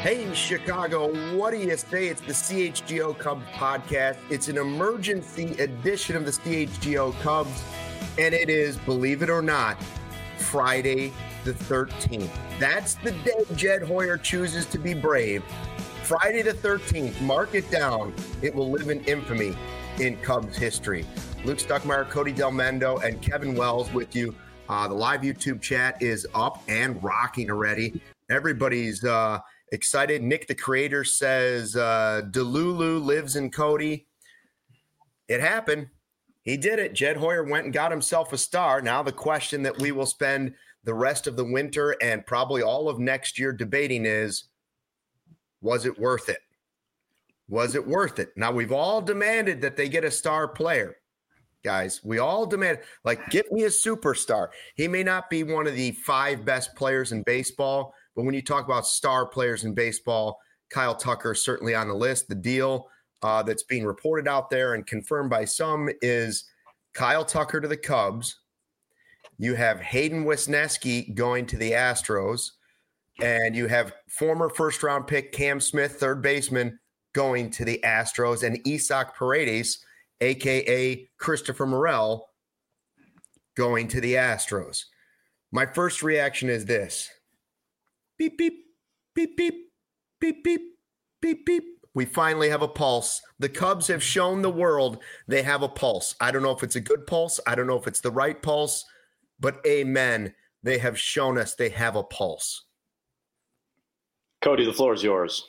Hey, Chicago, what do you say? It's the CHGO Cubs podcast. It's an emergency edition of the CHGO Cubs, and it is, believe it or not, Friday the 13th. That's the day Jed Hoyer chooses to be brave. Friday the 13th, mark it down. It will live in infamy in Cubs history. Luke Stuckmeyer, Cody Delmendo, and Kevin Wells with you. The live YouTube chat is up and rocking already. Everybody's excited. Nick, the creator, says Delulu lives in Cody. It happened. He did it. Jed Hoyer went and got himself a star. Now the question that we will spend the rest of the winter and probably all of next year debating is, was it worth it? Was it worth it? Now, we've all demanded that they get a star player. Guys, we all demand, like, get me a superstar. He may not be one of the 5 best players in baseball, but when you talk about star players in baseball, Kyle Tucker is certainly on the list. The deal that's being reported out there and confirmed by some is Kyle Tucker to the Cubs. You have Hayden Wesneski going to the Astros, and you have former first-round pick Cam Smith, third baseman, going to the Astros, and Isaac Paredes, a.k.a. Christopher Morel, going to the Astros. My first reaction is this. Beep, beep, beep, beep, beep, beep, beep, beep. We finally have a pulse. The Cubs have shown the world they have a pulse. I don't know if it's a good pulse. I don't know if it's the right pulse, but amen. They have shown us they have a pulse. Cody, the floor is yours.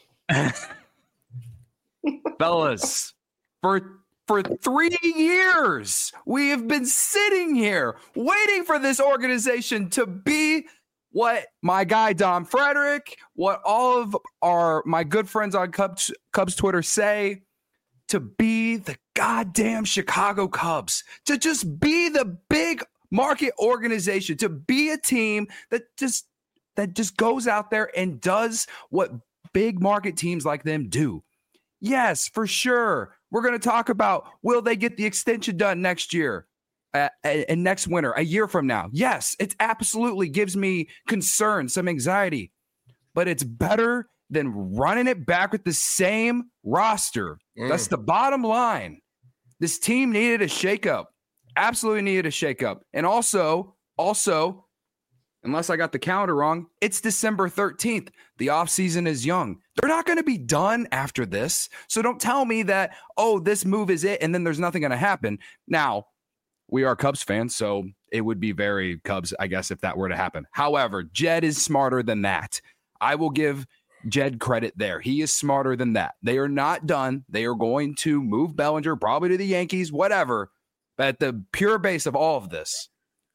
Fellas, for 3 years, we have been sitting here waiting for this organization to be what my guy Don Frederick, what all of my good friends on Cubs Twitter say, to be the goddamn Chicago Cubs, to just be the big market organization, to be a team that just goes out there and does what big market teams like them do. Yes, for sure. We're going to talk about, will they get the extension done next year and next winter, a year from now? Yes, it absolutely gives me concern, some anxiety, but it's better than running it back with the same roster. That's the bottom line. This team needed a shakeup, absolutely needed a shakeup. And also, unless I got the calendar wrong, it's December 13th. The offseason is young. They're not going to be done after this. So don't tell me that, oh, this move is it, and then there's nothing going to happen. Now, we are Cubs fans, so it would be very Cubs, I guess, if that were to happen. However, Jed is smarter than that. I will give Jed credit there. He is smarter than that. They are not done. They are going to move Bellinger, probably to the Yankees, whatever. But at the pure base of all of this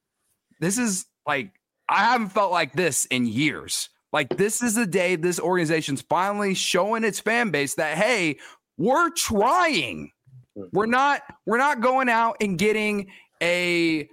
is like, I haven't felt like this in years. Like, this is the day this organization's finally showing its fan base that, hey, we're trying. We're not going out and getting a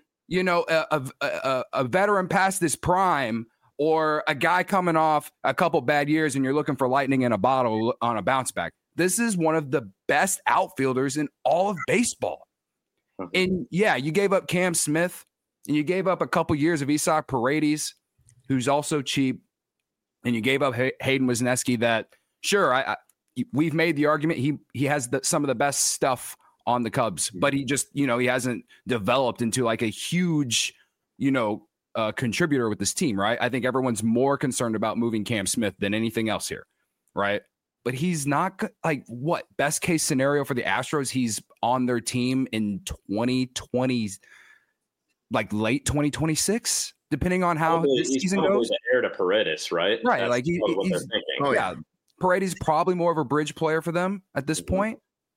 veteran past this prime or a guy coming off a couple bad years and you're looking for lightning in a bottle on a bounce back. This is one of the best outfielders in all of baseball. And yeah, you gave up Cam Smith. And you gave up a couple years of Isaac Paredes, who's also cheap. And you gave up Hayden Wesneski that, sure, we've made the argument he has some of the best stuff on the Cubs, but he just, he hasn't developed into like a huge, contributor with this team, right? I think everyone's more concerned about moving Cam Smith than anything else here, right? But he's not like, what, best case scenario for the Astros, he's on their team in 2020, like late 2026, depending on how this season goes. He's the heir to Paredes, right? Right. That's like he's yeah. Paredes probably more of a bridge player for them at this point.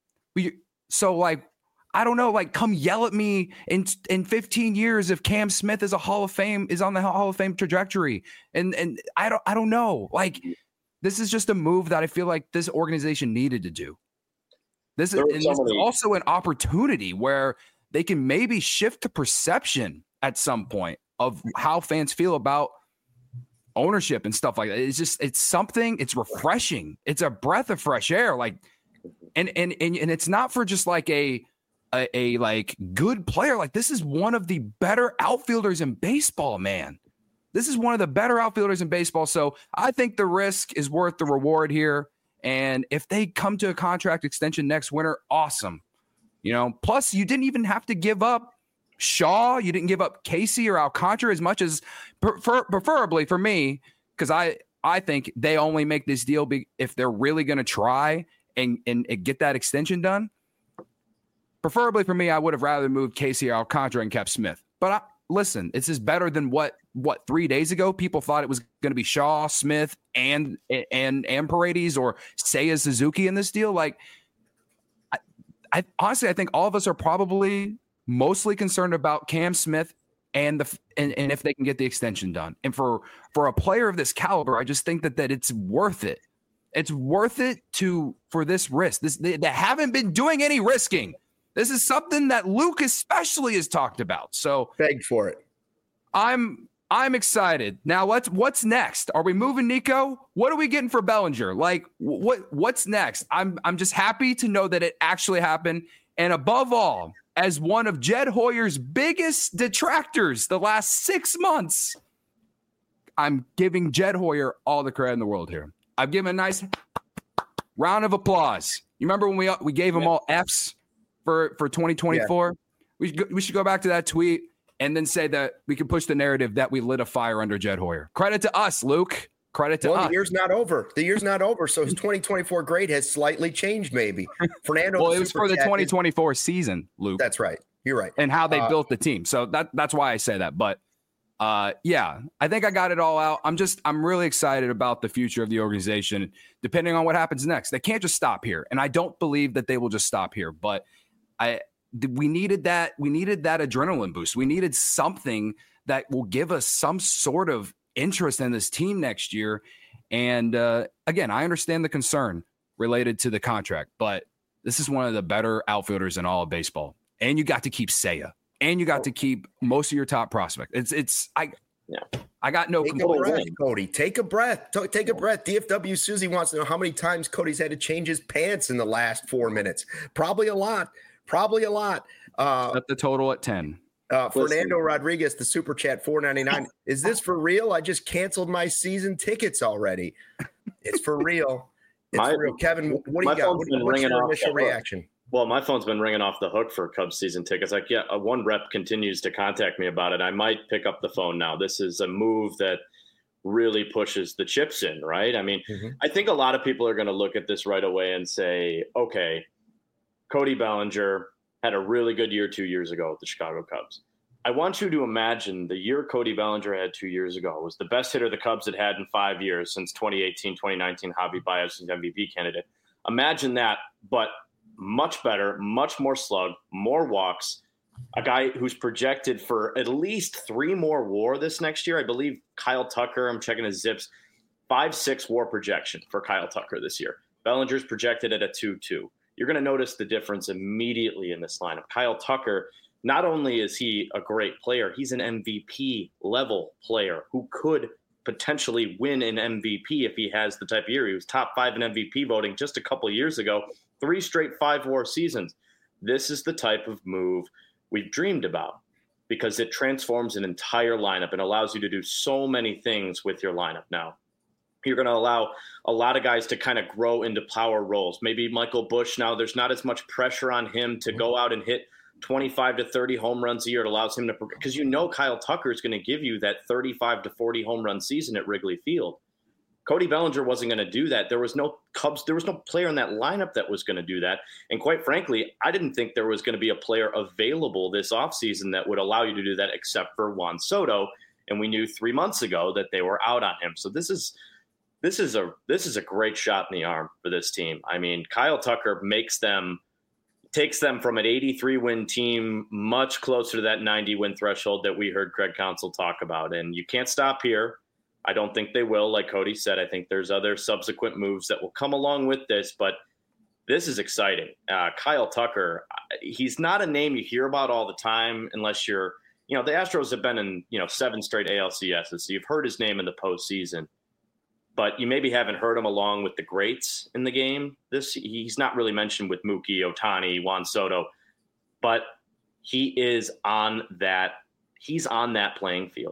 So like, I don't know, like, come yell at me in 15 years if Cam Smith is on the Hall of Fame trajectory. And I don't know. Like, this is just a move that I feel like this organization needed to do. This is also an opportunity where they can maybe shift the perception at some point of how fans feel about ownership and stuff like that. It's something, it's refreshing. It's a breath of fresh air. Like, and it's not for just like a like good player. Like, this is one of the better outfielders in baseball, man. This is one of the better outfielders in baseball. So I think the risk is worth the reward here. And if they come to a contract extension next winter, awesome. Plus you didn't even have to give up Shaw. You didn't give up Casey or Alcantara as much as preferably for me, because I think they only make this deal if they're really going to try and get that extension done. Preferably for me, I would have rather moved Casey or Alcantara and kept Smith. But listen, this is better than what 3 days ago people thought it was going to be Shaw, Smith, and Paredes or Seiya Suzuki in this deal. Like, I honestly, I think all of us are probably mostly concerned about Cam Smith and if they can get the extension done. And for a player of this caliber, I just think that it's worth it. It's worth it for this risk. They haven't been doing any risking. This is something that Luke especially has talked about. So begged for it. I'm excited. Now what's next? Are we moving Nico? What are we getting for Bellinger? Like what's next? I'm just happy to know that it actually happened. And above all, as one of Jed Hoyer's biggest detractors the last 6 months, I'm giving Jed Hoyer all the credit in the world here. I've given a nice round of applause. You remember when we gave them all Fs for 2024? Yeah. We should go back to that tweet and then say that we can push the narrative that we lit a fire under Jed Hoyer. Credit to us, Luke. Credit to us. The year's not over. So his 2024 grade has slightly changed, maybe. Fernando. Well, it was for the 2024 season, Luke. That's right. You're right. And how they built the team. So that's why I say that. But yeah, I think I got it all out. I'm really excited about the future of the organization, depending on what happens next. They can't just stop here. And I don't believe that they will just stop here. But we needed that adrenaline boost. We needed something that will give us some sort of interest in this team next year. And again, I understand the concern related to the contract, but this is one of the better outfielders in all of baseball. And you got to keep Seiya, and you got to keep most of your top prospects. I got no complaints. Cody, take a breath. Take a breath. DFW Susie wants to know how many times Cody's had to change his pants in the last 4 minutes. Probably a lot. Set the total at 10. Fernando Rodriguez, the super chat, $4.99. Is this for real? I just canceled my season tickets already. It's for real. For real. Kevin, what do you got? What's your initial reaction? Well, my phone's been ringing off the hook for Cubs season tickets. Like, yeah, one rep continues to contact me about it. I might pick up the phone now. This is a move that really pushes the chips in, right? I mean, I think a lot of people are going to look at this right away and say, okay, Cody Bellinger had a really good year 2 years ago with the Chicago Cubs. I want you to imagine the year Cody Bellinger had 2 years ago was the best hitter the Cubs had in 5 years since 2018, 2019, Javi Baez's MVP candidate. Imagine that, but much better, much more slug, more walks, a guy who's projected for at least 3 more WAR this next year. I believe Kyle Tucker, I'm checking his zips, 5.6 WAR projection for Kyle Tucker this year. Bellinger's projected at a 2.2. You're going to notice the difference immediately in this lineup. Kyle Tucker, not only is he a great player, he's an MVP level player who could potentially win an MVP if he has the type of year. He was top 5 in MVP voting just a couple of years ago, 3 straight 5-WAR seasons. This is the type of move we've dreamed about because it transforms an entire lineup and allows you to do so many things with your lineup now. You're going to allow a lot of guys to kind of grow into power roles. Maybe Michael Busch now, there's not as much pressure on him to go out and hit 25 to 30 home runs a year. It allows him to, because Kyle Tucker is going to give you that 35 to 40 home run season at Wrigley Field. Cody Bellinger wasn't going to do that. There was no player in that lineup that was going to do that. And quite frankly, I didn't think there was going to be a player available this offseason that would allow you to do that except for Juan Soto. And we knew 3 months ago that they were out on him. So this is a great shot in the arm for this team. I mean, Kyle Tucker takes them from an 83-win team much closer to that 90-win threshold that we heard Craig Counsell talk about. And you can't stop here. I don't think they will. Like Cody said, I think there's other subsequent moves that will come along with this, but this is exciting. Kyle Tucker, he's not a name you hear about all the time unless you're, the Astros have been in, 7 straight ALCSs. So you've heard his name in the postseason. But you maybe haven't heard him along with the greats in the game. He's not really mentioned with Mookie, Ohtani, Juan Soto, but he's on that playing field.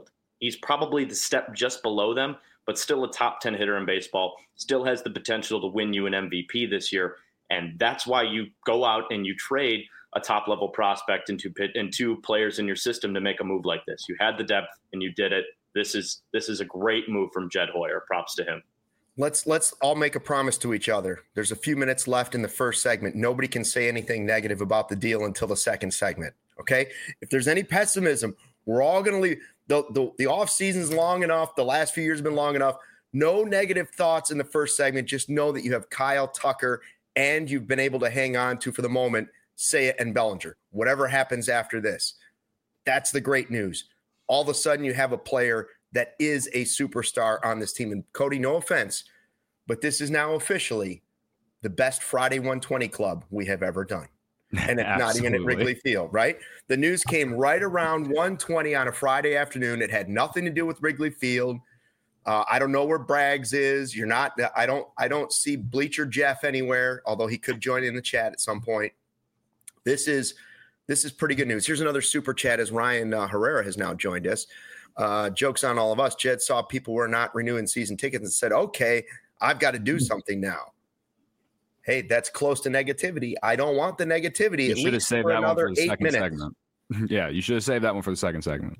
He's probably the step just below them, but still a top 10 hitter in baseball, still has the potential to win you an MVP this year. And that's why you go out and you trade a top-level prospect into players in your system to make a move like this. You had the depth, and you did it. This is a great move from Jed Hoyer. Props to him. Let's all make a promise to each other. There's a few minutes left in the first segment. Nobody can say anything negative about the deal until the second segment, okay? If there's any pessimism, we're all going to leave. The off season's long enough. The last few years have been long enough. No negative thoughts in the first segment. Just know that you have Kyle Tucker and you've been able to hang on to, for the moment, Seiya and Bellinger. Whatever happens after this, that's the great news. All of a sudden you have a player that is a superstar on this team. And Cody, no offense, but this is now officially the best Friday 120 club we have ever done. And it's not even at Wrigley Field, right? The news came right around 1:20 on a Friday afternoon. It had nothing to do with Wrigley Field. I don't know where Braggs is. I don't see Bleacher Jeff anywhere, although he could join in the chat at some point. This is pretty good news. Here's another super chat as Ryan Herrera has now joined us. Joke's on all of us. Jed saw people were not renewing season tickets and said, okay, I've got to do something now. Hey, that's close to negativity. I don't want the negativity. You should have saved that one for the second segment. Yeah, you should have saved that one for the second segment.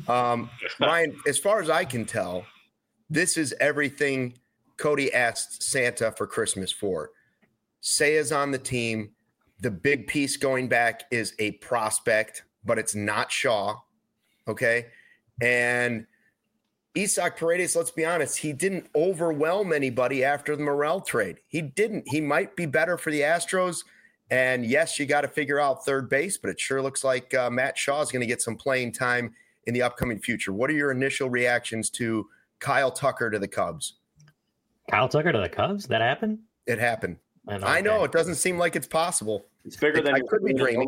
Ryan, as far as I can tell, this is everything Cody asked Santa for Christmas for. Seiya's on the team. The big piece going back is a prospect, but it's not Shaw. Okay. And Isaac Paredes, let's be honest, he didn't overwhelm anybody after the Morel trade. He didn't. He might be better for the Astros. And yes, you got to figure out third base, but it sure looks like Matt Shaw is going to get some playing time in the upcoming future. What are your initial reactions to Kyle Tucker to the Cubs? Kyle Tucker to the Cubs? That happened? It happened. I know. It doesn't seem like it's possible. It's bigger than I could be dreaming.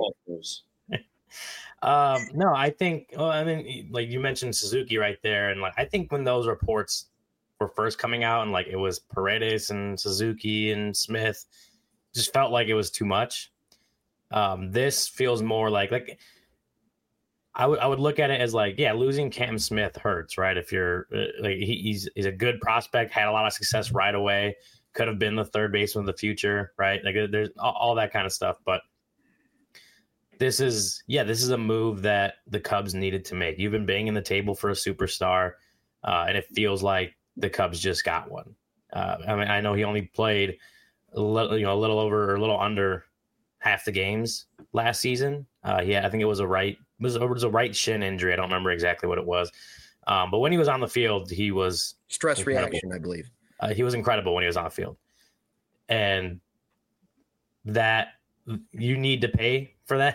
No, I think, like you mentioned Suzuki right there. And like, I think when those reports were first coming out and like it was Paredes and Suzuki and Smith, just felt like it was too much. This feels more like I would look at it as like, yeah, losing Cam Smith hurts, right? If you're like, he's a good prospect, had a lot of success right away, could have been the third baseman of the future, right? Like there's all that kind of stuff. But this is a move that the Cubs needed to make. You've been banging the table for a superstar, and it feels like the Cubs just got one. I know he only played a little over or a little under half the games last season. I think it was a right shin injury. I don't remember exactly what it was. But when he was on the field, he was stress incredible. reaction, I believe. He was incredible when he was on the field, and that you need to pay for that.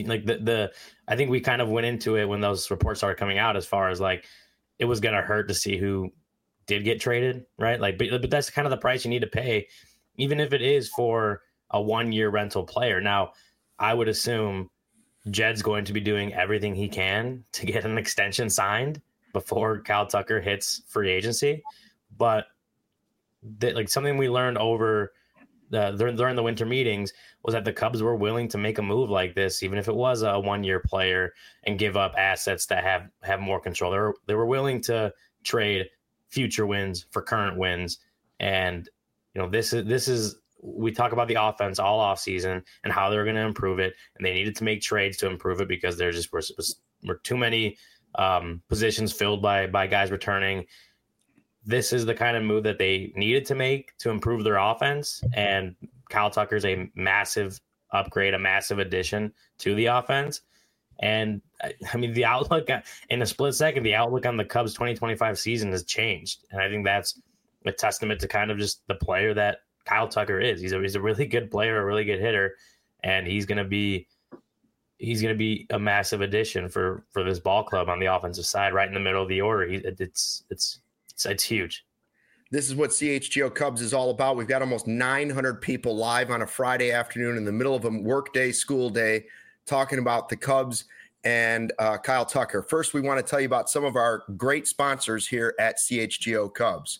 I think we kind of went into it when those reports started coming out, as far as like it was going to hurt to see who did get traded, right? Like, but that's kind of the price you need to pay, even if it is for a 1-year rental player. Now, I would assume Jed's going to be doing everything he can to get an extension signed before Kyle Tucker hits free agency, but like something we learned over during the winter meetings was that the Cubs were willing to make a move like this, even if it was a 1-year player, and give up assets that have more control. They were willing to trade future wins for current wins. And, this is, we talk about the offense all off season and how they're going to improve it. And they needed to make trades to improve it because there just were too many positions filled by guys returning. This is the kind of move that they needed to make to improve their offense. And Kyle Tucker's a massive upgrade, a massive addition to the offense. And I mean, the outlook in a split second, the outlook on the Cubs 2025 season has changed. And I think that's a testament to kind of just the player that Kyle Tucker is. He's a really good player, a really good hitter, and he's going to be a massive addition for this ball club on the offensive side, right in the middle of the order. It's huge. This is what CHGO Cubs is all about. We've got almost 900 people live on a Friday afternoon in the middle of a work day, school day, talking about the Cubs and Kyle Tucker. First, we want to tell you about some of our great sponsors here at CHGO Cubs.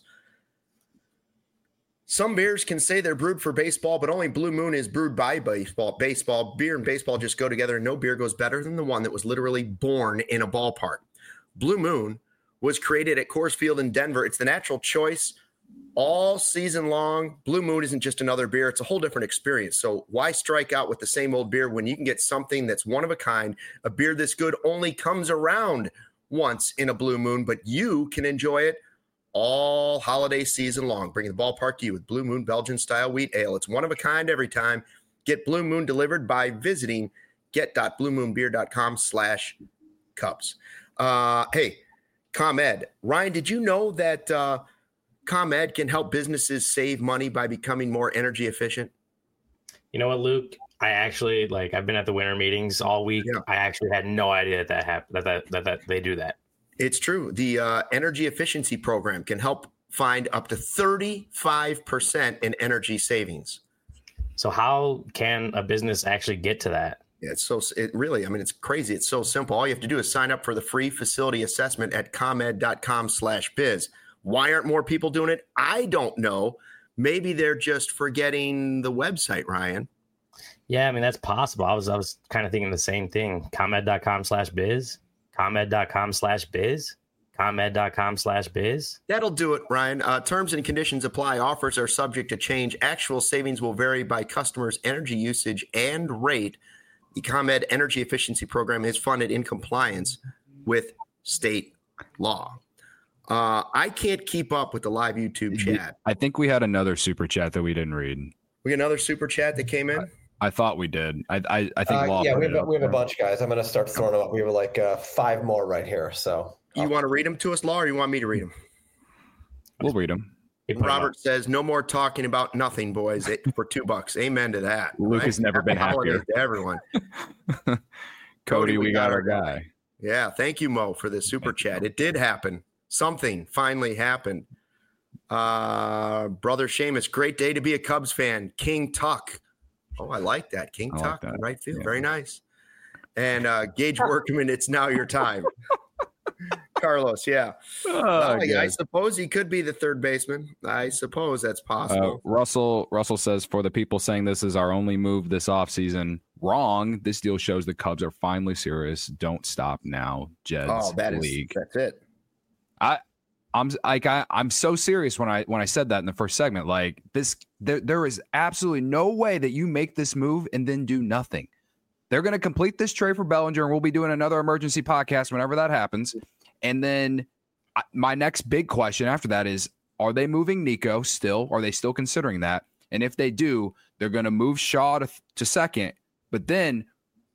Some beers can say they're brewed for baseball, but only Blue Moon is brewed by baseball. Beer and baseball just go together, and no beer goes better than the one that was literally born in a ballpark. Blue Moon was created at Coors Field in Denver. It's the natural choice all season long. Blue Moon isn't just another beer. It's a whole different experience. So why strike out with the same old beer when you can get something that's one of a kind? A beer this good only comes around once in a Blue Moon, but you can enjoy it all holiday season long. Bringing the ballpark to you with Blue Moon Belgian-style wheat ale. It's one of a kind every time. Get Blue Moon delivered by visiting get.bluemoonbeer.com/Cubs. Hey, ComEd. Ryan, did you know that ComEd can help businesses save money by becoming more energy efficient? You know what, Luke? I actually, I've been at the winter meetings all week. Yeah. I actually had no idea that happened, that they do that. It's true. The energy efficiency program can help find up to 35% in energy savings. So how can a business actually get to that? Yeah, it's crazy. It's so simple. All you have to do is sign up for the free facility assessment at comed.com/biz. Why aren't more people doing it? I don't know. Maybe they're just forgetting the website, Ryan. Yeah, I mean, that's possible. I was kind of thinking the same thing. ComEd.com/biz, ComEd.com/biz, ComEd.com/biz. That'll do it, Ryan. Terms and conditions apply. Offers are subject to change. Actual savings will vary by customers' energy usage and rate. The ComEd Energy Efficiency Program is funded in compliance with state law. I can't keep up with the live YouTube chat. I think we had another super chat that we didn't read. We got another super chat that came in? I thought we did. I think yeah, we have a bunch, guys. I'm going to start throwing them up. We have 5 more right here. So you want to read them to us, Law, or you want me to read them? We'll read them. Robert says, no more talking about nothing, boys, for $2. Amen to that. Luke has never been happier. To everyone. Cody, we got our guy. Yeah, thank you, Mo, for the super chat. It did happen. Something finally happened. Brother Seamus, great day to be a Cubs fan. King Tuck. Oh, I like that. King Tuck, like right field. Yeah. Very nice. And Gage Workman, it's now your time. Carlos, yeah. I suppose he could be the third baseman. I suppose that's possible. Russell says, for the people saying this is our only move this offseason, wrong. This deal shows the Cubs are finally serious. Don't stop now, Jed's league. That's it. I'm so serious when I said that in the first segment. Like this, there is absolutely no way that you make this move and then do nothing. They're going to complete this trade for Bellinger, and we'll be doing another emergency podcast whenever that happens. And then my next big question after that is, are they moving Nico still? Are they still considering that? And if they do, they're going to move Shaw to second. But then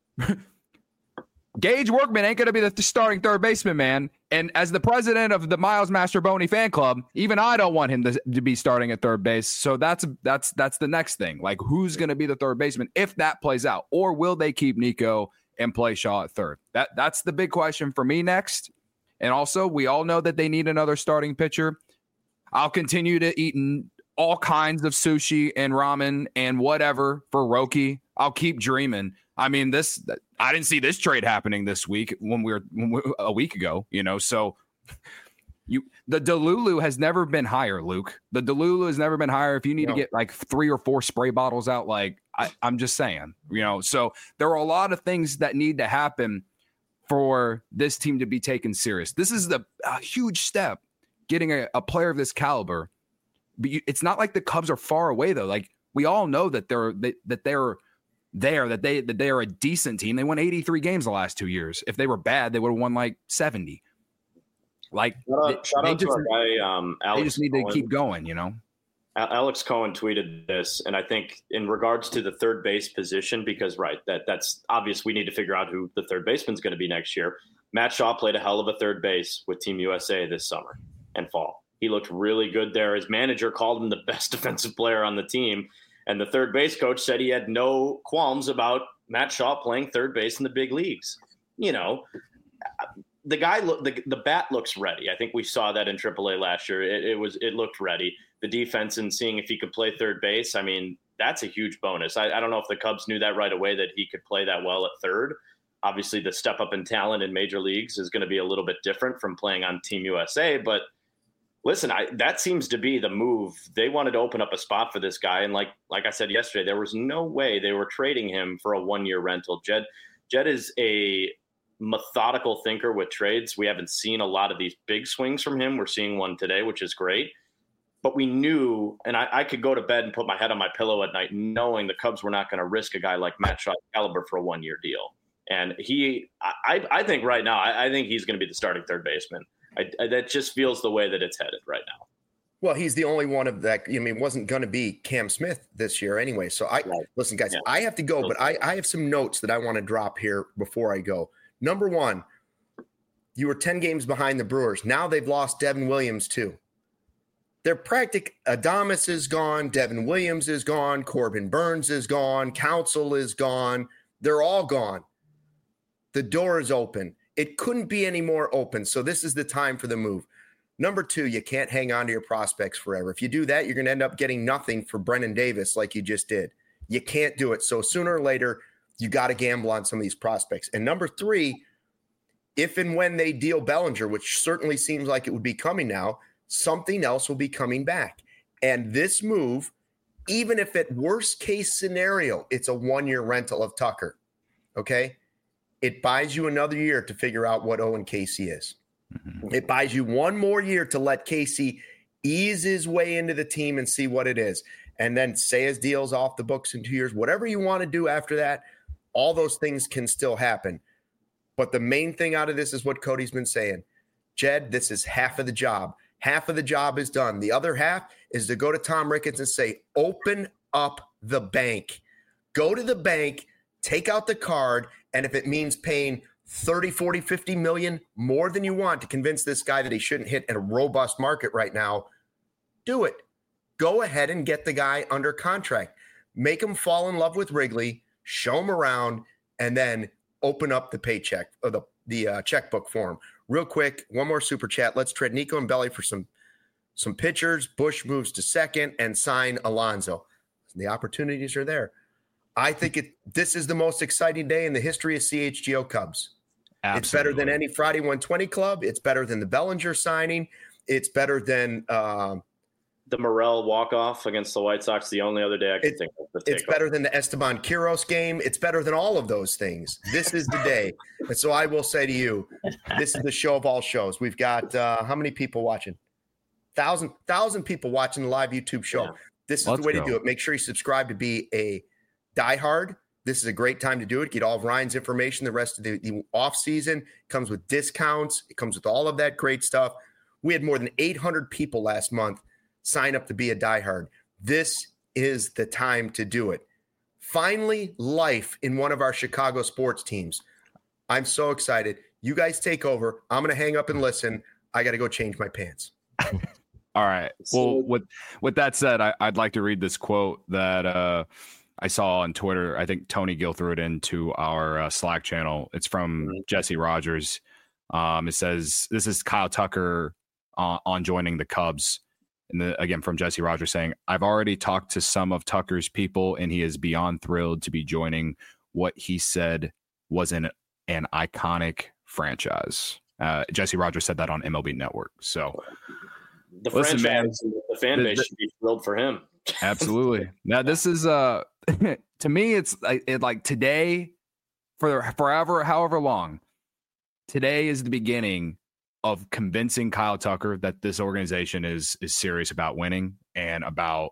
Gage Workman ain't going to be the starting third baseman, man. And as the president of the Miles Mastroboni fan club, even I don't want him to be starting at third base. So that's the next thing. Like, who's going to be the third baseman if that plays out? Or will they keep Nico and play Shaw at third? That's the big question for me next. And also, we all know that they need another starting pitcher. I'll continue to eat all kinds of sushi and ramen and whatever for Roki. I'll keep dreaming. I mean, I didn't see this trade happening this week when we were a week ago, so the Delulu has never been higher, Luke. The Delulu has never been higher. If you need to get like 3 or 4 spray bottles out, I'm just saying, so there are a lot of things that need to happen for this team to be taken serious. This is a huge step, getting a player of this caliber. But it's not like the Cubs are far away, though. Like, we all know that they are a decent team. They won 83 games the last 2 years. If they were bad, they would have won like 70. Like, shout out to our guy, Alex. They just need to keep going, Alex Cohen tweeted this, and I think in regards to the third base position, because that's obvious. We need to figure out who the third baseman's going to be next year. Matt Shaw played a hell of a third base with Team USA this summer and fall. He looked really good there. His manager called him the best defensive player on the team. And the third base coach said he had no qualms about Matt Shaw playing third base in the big leagues. The guy, the bat looks ready. I think we saw that in AAA last year. It looked ready. The defense and seeing if he could play third base, I mean, that's a huge bonus. I don't know if the Cubs knew that right away, that he could play that well at third. Obviously, the step up in talent in major leagues is going to be a little bit different from playing on Team USA. But listen, that seems to be the move. They wanted to open up a spot for this guy. And like I said yesterday, there was no way they were trading him for a 1-year rental. Jed is a methodical thinker with trades. We haven't seen a lot of these big swings from him. We're seeing one today, which is great. But we knew, and I could go to bed and put my head on my pillow at night knowing the Cubs were not going to risk a guy like Matt Shaw's caliber for a one-year deal. And I think right now, I think he's going to be the starting third baseman. That just feels the way that it's headed right now. Well, he's the only one of that. I mean, it wasn't going to be Cam Smith this year anyway. So listen, guys, I have to go, but I have some notes that I want to drop here before I go. Number one, you were 10 games behind the Brewers. Now they've lost Devin Williams too. They're Adames is gone. Devin Williams is gone. Corbin Burns is gone. Counsell is gone. They're all gone. The door is open. It couldn't be any more open. So this is the time for the move. Number two, you can't hang on to your prospects forever. If you do that, you're going to end up getting nothing for Brennan Davis like you just did. You can't do it. So sooner or later, you got to gamble on some of these prospects. And number three, if and when they deal Bellinger, which certainly seems like it would be coming now, something else will be coming back. And this move, even if at worst case scenario, it's a 1-year rental of Tucker, okay? It buys you another year to figure out what Owen Casey is. Mm-hmm. It buys you one more year to let Casey ease his way into the team and see what it is. And then say his deal's off the books in 2 years. Whatever you want to do after that, all those things can still happen. But the main thing out of this is what Cody's been saying. Jed, this is half of the job. Half of the job is done. The other half is to go to Tom Ricketts and say, open up the bank. Go to the bank, take out the card, and if it means paying 30, 40, 50 million more than you want to convince this guy that he shouldn't hit in a robust market right now, do it. Go ahead and get the guy under contract. Make him fall in love with Wrigley, show him around, and then open up the paycheck or the checkbook for him. Real quick, one more super chat. Let's trade Nico and Belly for some pitchers. Bush moves to second and sign Alonso. The opportunities are there. I think this is the most exciting day in the history of CHGO Cubs. Absolutely. It's better than any Friday 120 club. It's better than the Bellinger signing. It's better than the Morel walk-off against the White Sox. The only other day I can think of. It's better than the Esteban Quiroz game. It's better than all of those things. This is the day. And so I will say to you, this is the show of all shows. We've got how many people watching? 1,000 people watching the live YouTube show. Yeah. This is the way to do it. Make sure you subscribe to be a diehard. This is a great time to do it. Get all of Ryan's information the rest of the off season. It comes with discounts. It comes with all of that great stuff. We had more than 800 people last month sign up to be a diehard. This is the time to do it. Finally, life in one of our Chicago sports teams. I'm so excited. You guys take over. I'm going to hang up and listen. I got to go change my pants. All right. Well, with that said, I'd like to read this quote that I saw on Twitter. I think Tony Gill threw it into our Slack channel. It's from Jesse Rogers. It says, this is Kyle Tucker on joining the Cubs. And again, from Jesse Rogers saying, I've already talked to some of Tucker's people, and he is beyond thrilled to be joining what he said was an iconic franchise. Jesse Rogers said that on MLB Network. So the franchise, the fan base should be thrilled for him. Absolutely. Now, this is to me, it's like today, for forever, however long. Today is the beginning of convincing Kyle Tucker that this organization is serious about winning and about,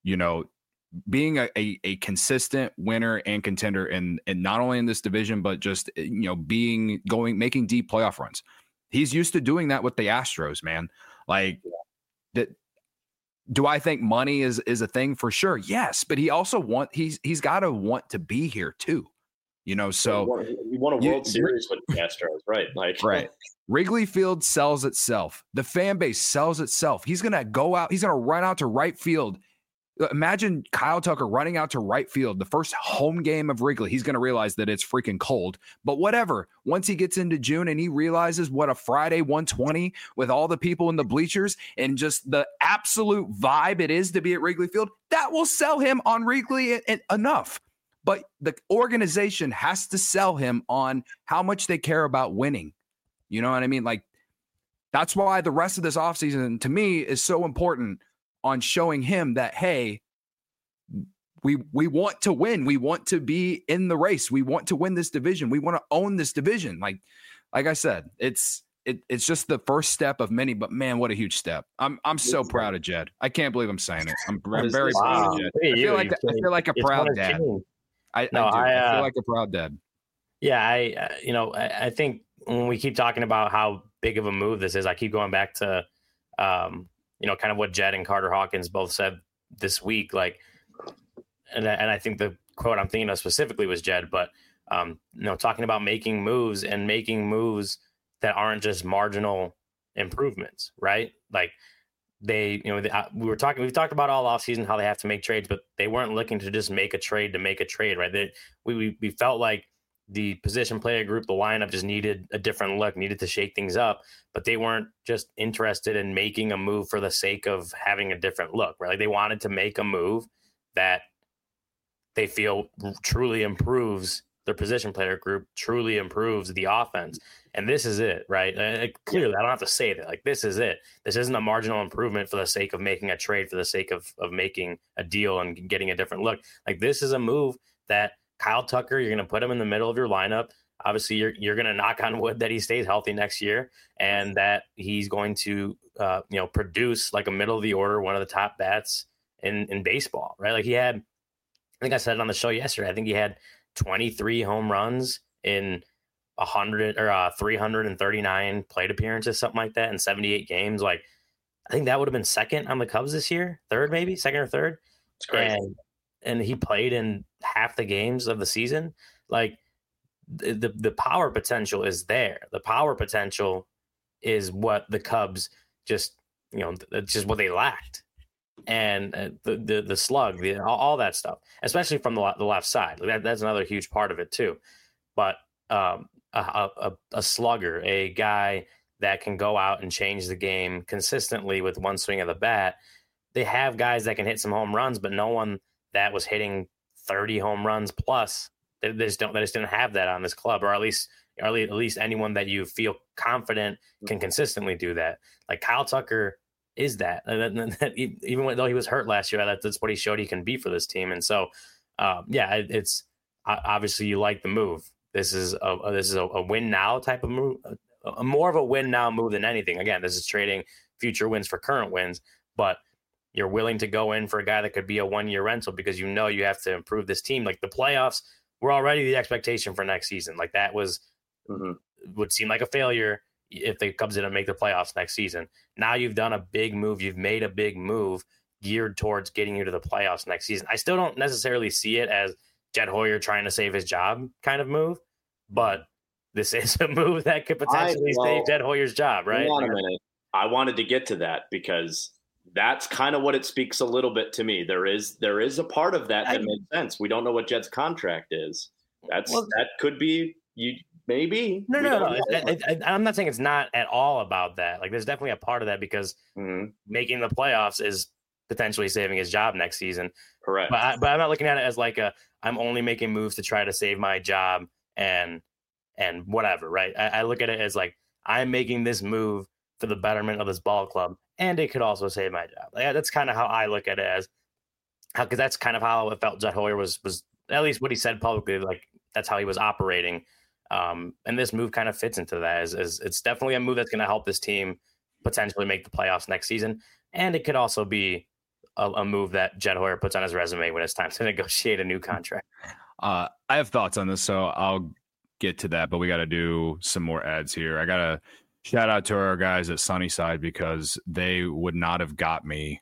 being a consistent winner and contender and not only in this division, but just, making deep playoff runs. He's used to doing that with the Astros, man. Like that. Do I think money is a thing? For sure? Yes. But he also he's got to want to be here too. So he won a World Series with the Astros, right? Right. Wrigley Field sells itself. The fan base sells itself. He's going to go out. He's going to run out to right field. Imagine Kyle Tucker running out to right field. The first home game of Wrigley. He's going to realize that it's freaking cold, but whatever. Once he gets into June and he realizes what a Friday 120 with all the people in the bleachers and just the absolute vibe it is to be at Wrigley Field, that will sell him on Wrigley enough. But the organization has to sell him on how much they care about winning. You know what I mean? Like, that's why the rest of this offseason, to me, is so important on showing him that, hey, we want to win. We want to be in the race. We want to win this division. We want to own this division. Like I said, it's just the first step of many, but man, what a huge step. I'm so proud of Jed. I can't believe I'm saying it. I'm very proud of Jed. I feel like a proud dad. I feel like a proud dad. Yeah, I think when we keep talking about how big of a move this is, I keep going back to kind of what Jed and Carter Hawkins both said this week. Like, and I think the quote I'm thinking of specifically was Jed, but talking about making moves that aren't just marginal improvements, right? Like we've talked about all offseason how they have to make trades, but they weren't looking to just make a trade to make a trade, right? We felt like the position player group, the lineup just needed a different look, needed to shake things up, but they weren't just interested in making a move for the sake of having a different look, right? Like they wanted to make a move that they feel truly improves their position player group, truly improves the offense. And this is it, right? Clearly, I don't have to say that. Like, this is it. This isn't a marginal improvement for the sake of making a trade, for the sake of making a deal and getting a different look. Like, this is a move that Kyle Tucker, you're going to put him in the middle of your lineup. Obviously, you're going to knock on wood that he stays healthy next year and that he's going to, produce like a middle of the order, one of the top bats in baseball, right? Like I think I said it on the show yesterday. I think he had 23 home runs in 339 plate appearances, something like that, in 78 games. Like, I think that would have been second on the Cubs this year, second or third. It's crazy. And he played in half the games of the season. Like, the power potential is there. The power potential is what the Cubs just what they lacked. And the slug, all that stuff, especially from the left side. That's another huge part of it too. But a slugger, a guy that can go out and change the game consistently with one swing of the bat. They have guys that can hit some home runs, but no one that was hitting 30 home runs plus. They just didn't have that on this club, or at least anyone that you feel confident can consistently do that. Like Kyle Tucker is that, even though he was hurt last year, that's what he showed he can be for this team. And so, it's obviously you like the move. This is a win now type of move, more of a win now move than anything. Again, this is trading future wins for current wins, but you're willing to go in for a guy that could be a 1-year rental because you have to improve this team. Like the playoffs were already the expectation for next season. Like that would seem like a failure if the Cubs didn't make the playoffs next season. Now you've done a big move. You've made a big move geared towards getting you to the playoffs next season. I still don't necessarily see it as Jed Hoyer trying to save his job kind of move, but this is a move that could potentially save Jed Hoyer's job, right? Hold on a minute. I wanted to get to that because that's kind of what it speaks a little bit to me. There is a part of that makes sense. We don't know what Jed's contract is. That could be you. Maybe. No. I'm not saying it's not at all about that. Like, there's definitely a part of that because making the playoffs is potentially saving his job next season. Correct. But I'm not looking at it as like I'm only making moves to try to save my job and whatever, right? I look at it as like I'm making this move for the betterment of this ball club, and it could also save my job. Like, that's kind of how I look at it because that's kind of how it felt Jed Hoyer was at least what he said publicly. Like that's how he was operating. And this move kind of fits into that. As it's definitely a move that's going to help this team potentially make the playoffs next season. And it could also be a move that Jed Hoyer puts on his resume when it's time to negotiate a new contract. I have thoughts on this, so I'll get to that, but we got to do some more ads here. I got to shout out to our guys at Sunnyside because they would not have got me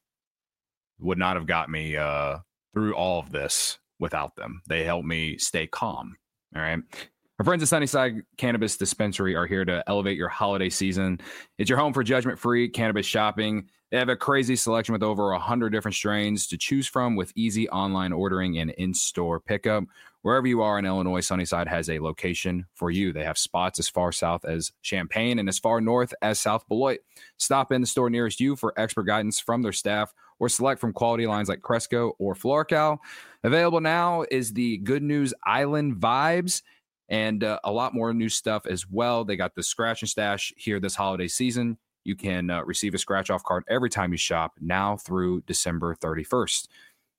through all of this without them. They helped me stay calm. All right. Our friends at Sunnyside Cannabis Dispensary are here to elevate your holiday season. It's your home for judgment-free cannabis shopping. They have a crazy selection with over 100 different strains to choose from with easy online ordering and in-store pickup. Wherever you are in Illinois, Sunnyside has a location for you. They have spots as far south as Champaign and as far north as South Beloit. Stop in the store nearest you for expert guidance from their staff or select from quality lines like Cresco or Florcal. Available now is the Good News Island Vibes, and a lot more new stuff as well. They got the Scratch and Stash here this holiday season. You can receive a scratch-off card every time you shop now through December 31st.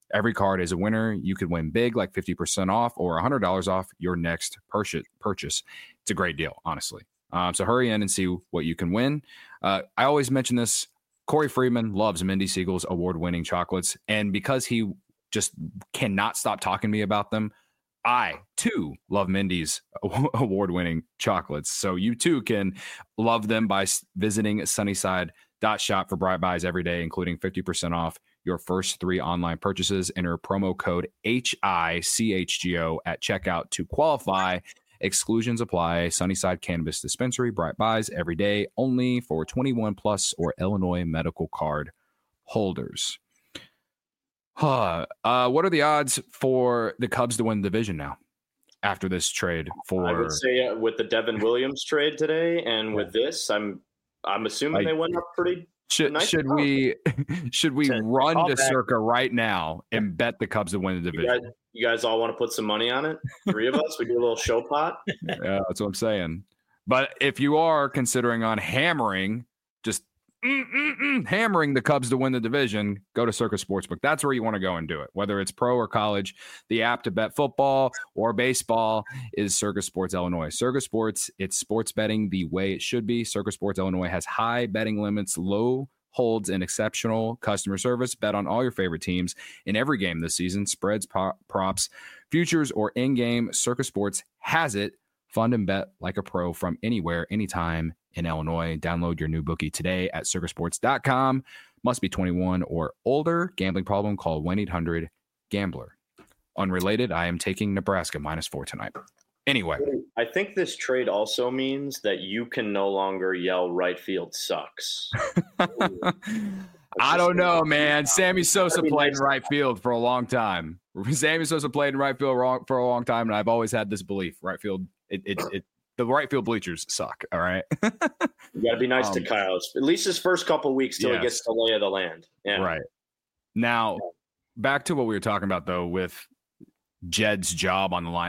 Every card is a winner. You could win big, like 50% off or $100 off your next purchase. It's a great deal, honestly. So hurry in and see what you can win. I always mention this. Corey Freeman loves Mindy Siegel's award-winning chocolates. And because he just cannot stop talking to me about them, I, too, love Mindy's award-winning chocolates. So you, too, can love them by visiting Sunnyside.shop for Bright Buys every day, including 50% off your first 3 online purchases. Enter promo code HICHGO at checkout to qualify. Exclusions apply. Sunnyside Cannabis Dispensary, Bright Buys every day, only for 21 plus or Illinois medical card holders. What are the odds for the Cubs to win the division now after this trade? I would say with the Devin Williams trade today and with this, I'm assuming they went up pretty. Should we run to Circa right now and bet the Cubs to win the division? You guys all want to put some money on it? 3 of us, we do a little show pot. Yeah, that's what I'm saying. But if you are considering on hammering, just hammering the Cubs to win the division, go to Circa Sportsbook. That's where you want to go and do it. Whether it's pro or college, the app to bet football or baseball is Circa Sports Illinois. Circa Sports, it's sports betting the way it should be. Circa Sports Illinois has high betting limits, low holds, and exceptional customer service. Bet on all your favorite teams in every game this season. Spreads, props, futures, or in-game. Circa Sports has it. Fund and bet like a pro from anywhere, anytime in Illinois. Download your new bookie today at circasports.com. Must be 21 or older. Gambling problem? Call 1-800-GAMBLER. Unrelated, I am taking Nebraska -4 tonight. Anyway. I think this trade also means that you can no longer yell right field sucks. I don't know, man. Sammy Sosa played in right field for a long time. Sammy Sosa played in right field for a long time, and I've always had this belief. Right field, the right field bleachers suck. All right. You got to be nice to Kyle. At least his first couple weeks till he gets the lay of the land. Yeah. Right. Now, back to what we were talking about, though, with Jed's job on the line.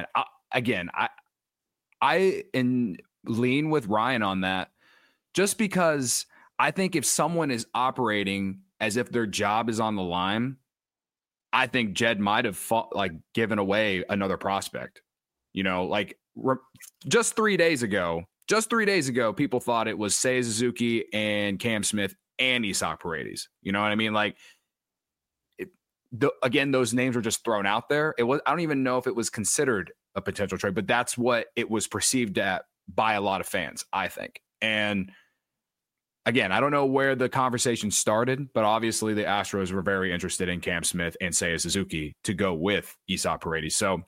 I lean with Ryan on that, just because I think if someone is operating as if their job is on the line, I think Jed might have given away another prospect. You know, like just 3 days ago, people thought it was Seiya Suzuki and Cam Smith and Isaac Paredes. You know what I mean? Like, again, those names were just thrown out there. I don't even know if it was considered a potential trade, but that's what it was perceived at by a lot of fans, I think. And again, I don't know where the conversation started, but obviously the Astros were very interested in Cam Smith and Seiya Suzuki to go with Isaac Paredes. So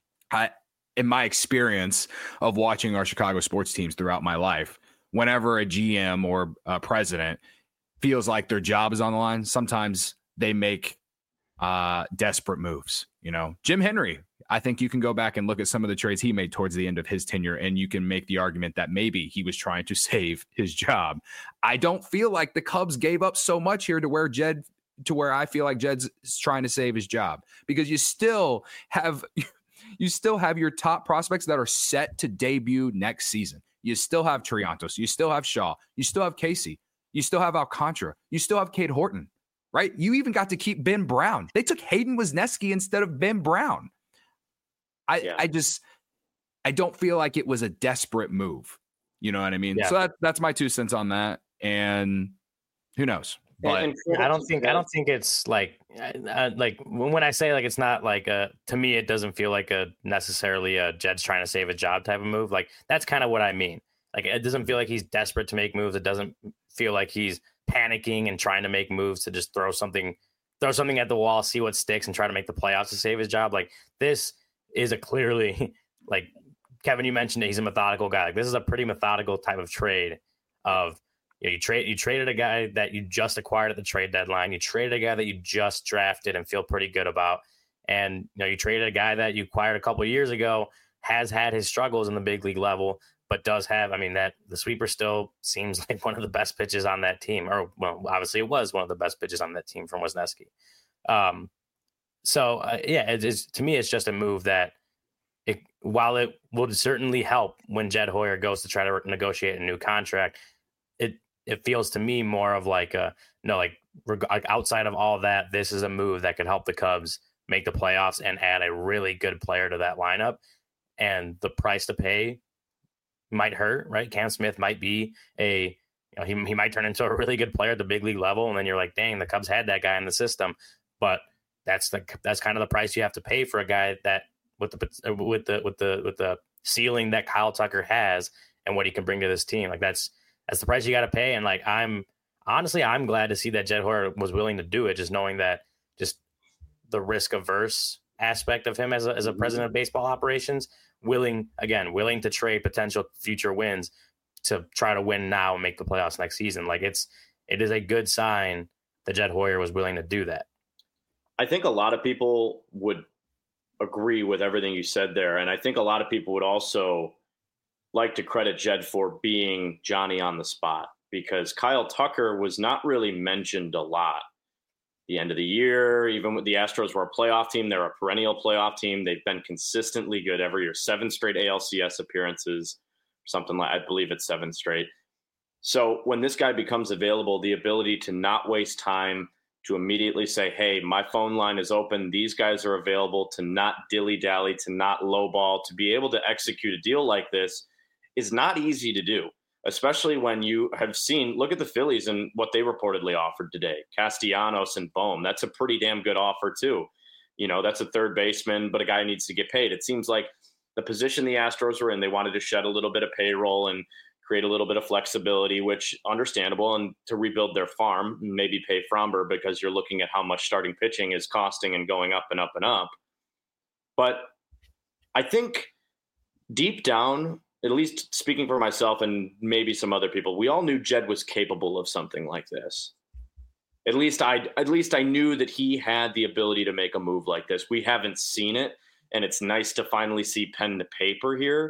in my experience of watching our Chicago sports teams throughout my life, whenever a GM or a president feels like their job is on the line, sometimes they make desperate moves. You know, Jim Henry, I think you can go back and look at some of the trades he made towards the end of his tenure, and you can make the argument that maybe he was trying to save his job. I don't feel like the Cubs gave up so much here to where I feel like Jed's trying to save his job, because you still have your top prospects that are set to debut next season. You still have Triantos, you still have Shaw, you still have Casey, you still have Alcantara, you still have Cade Horton, right? You even got to keep Ben Brown. They took Hayden Wesneski instead of Ben Brown. I don't feel like it was a desperate move. You know what I mean? Yeah. So that's my 2 cents on that. And who knows? But I don't think it's like when I say like it's not like to me it doesn't feel like a necessarily a Jed's trying to save a job type of move. Like that's kind of what I mean. Like it doesn't feel like he's desperate to make moves. It doesn't feel like he's panicking and trying to make moves to just throw something at the wall, see what sticks, and try to make the playoffs to save his job. Like this is a clearly, like Kevin, you mentioned it, he's a methodical guy. Like this is a pretty methodical type of trade of, you know, you traded a guy that you just acquired at the trade deadline. You traded a guy that you just drafted and feel pretty good about. And, you know, you traded a guy that you acquired a couple of years ago, has had his struggles in the big league level, but does have, I mean, that the sweeper still seems like one of the best pitches on that team. Or, well, obviously it was one of the best pitches on that team from Wesneski. To me, it's just a move that, while it will certainly help when Jed Hoyer goes to try to negotiate a new contract, it feels to me more of like outside of all that, this is a move that could help the Cubs make the playoffs and add a really good player to that lineup. And the price to pay might hurt, right? Cam Smith might be he might turn into a really good player at the big league level, and then you're like, dang, the Cubs had that guy in the system. But that's kind of the price you have to pay for a guy that with the ceiling that Kyle Tucker has and what he can bring to this team. Like that's the price you got to pay. And like I'm glad to see that Jed Hoyer was willing to do it, just knowing that just the risk averse aspect of him as a president of baseball operations, willing to trade potential future wins to try to win now and make the playoffs next season. Like it is a good sign that Jed Hoyer was willing to do that. I think a lot of people would agree with everything you said there. And I think a lot of people would also like to credit Jed for being Johnny on the spot, because Kyle Tucker was not really mentioned a lot. The end of the year, even with the Astros were a playoff team, they're a perennial playoff team. They've been consistently good every year, 7 straight ALCS appearances, something like, I believe it's 7 straight. So when this guy becomes available, the ability to not waste time, to immediately say, hey, my phone line is open, these guys are available, to not dilly-dally, to not lowball, to be able to execute a deal like this is not easy to do, especially when you have seen, look at the Phillies and what they reportedly offered today. Castellanos and Bohm, that's a pretty damn good offer too. That's a third baseman, but a guy needs to get paid. It seems like the position the Astros were in, they wanted to shed a little bit of payroll and create a little bit of flexibility, which understandable, and to rebuild their farm, maybe pay Fromber because you're looking at how much starting pitching is costing and going up and up and up. But I think deep down, at least speaking for myself and maybe some other people, we all knew Jed was capable of something like this. At least I knew that he had the ability to make a move like this. We haven't seen it, and it's nice to finally see pen to paper here.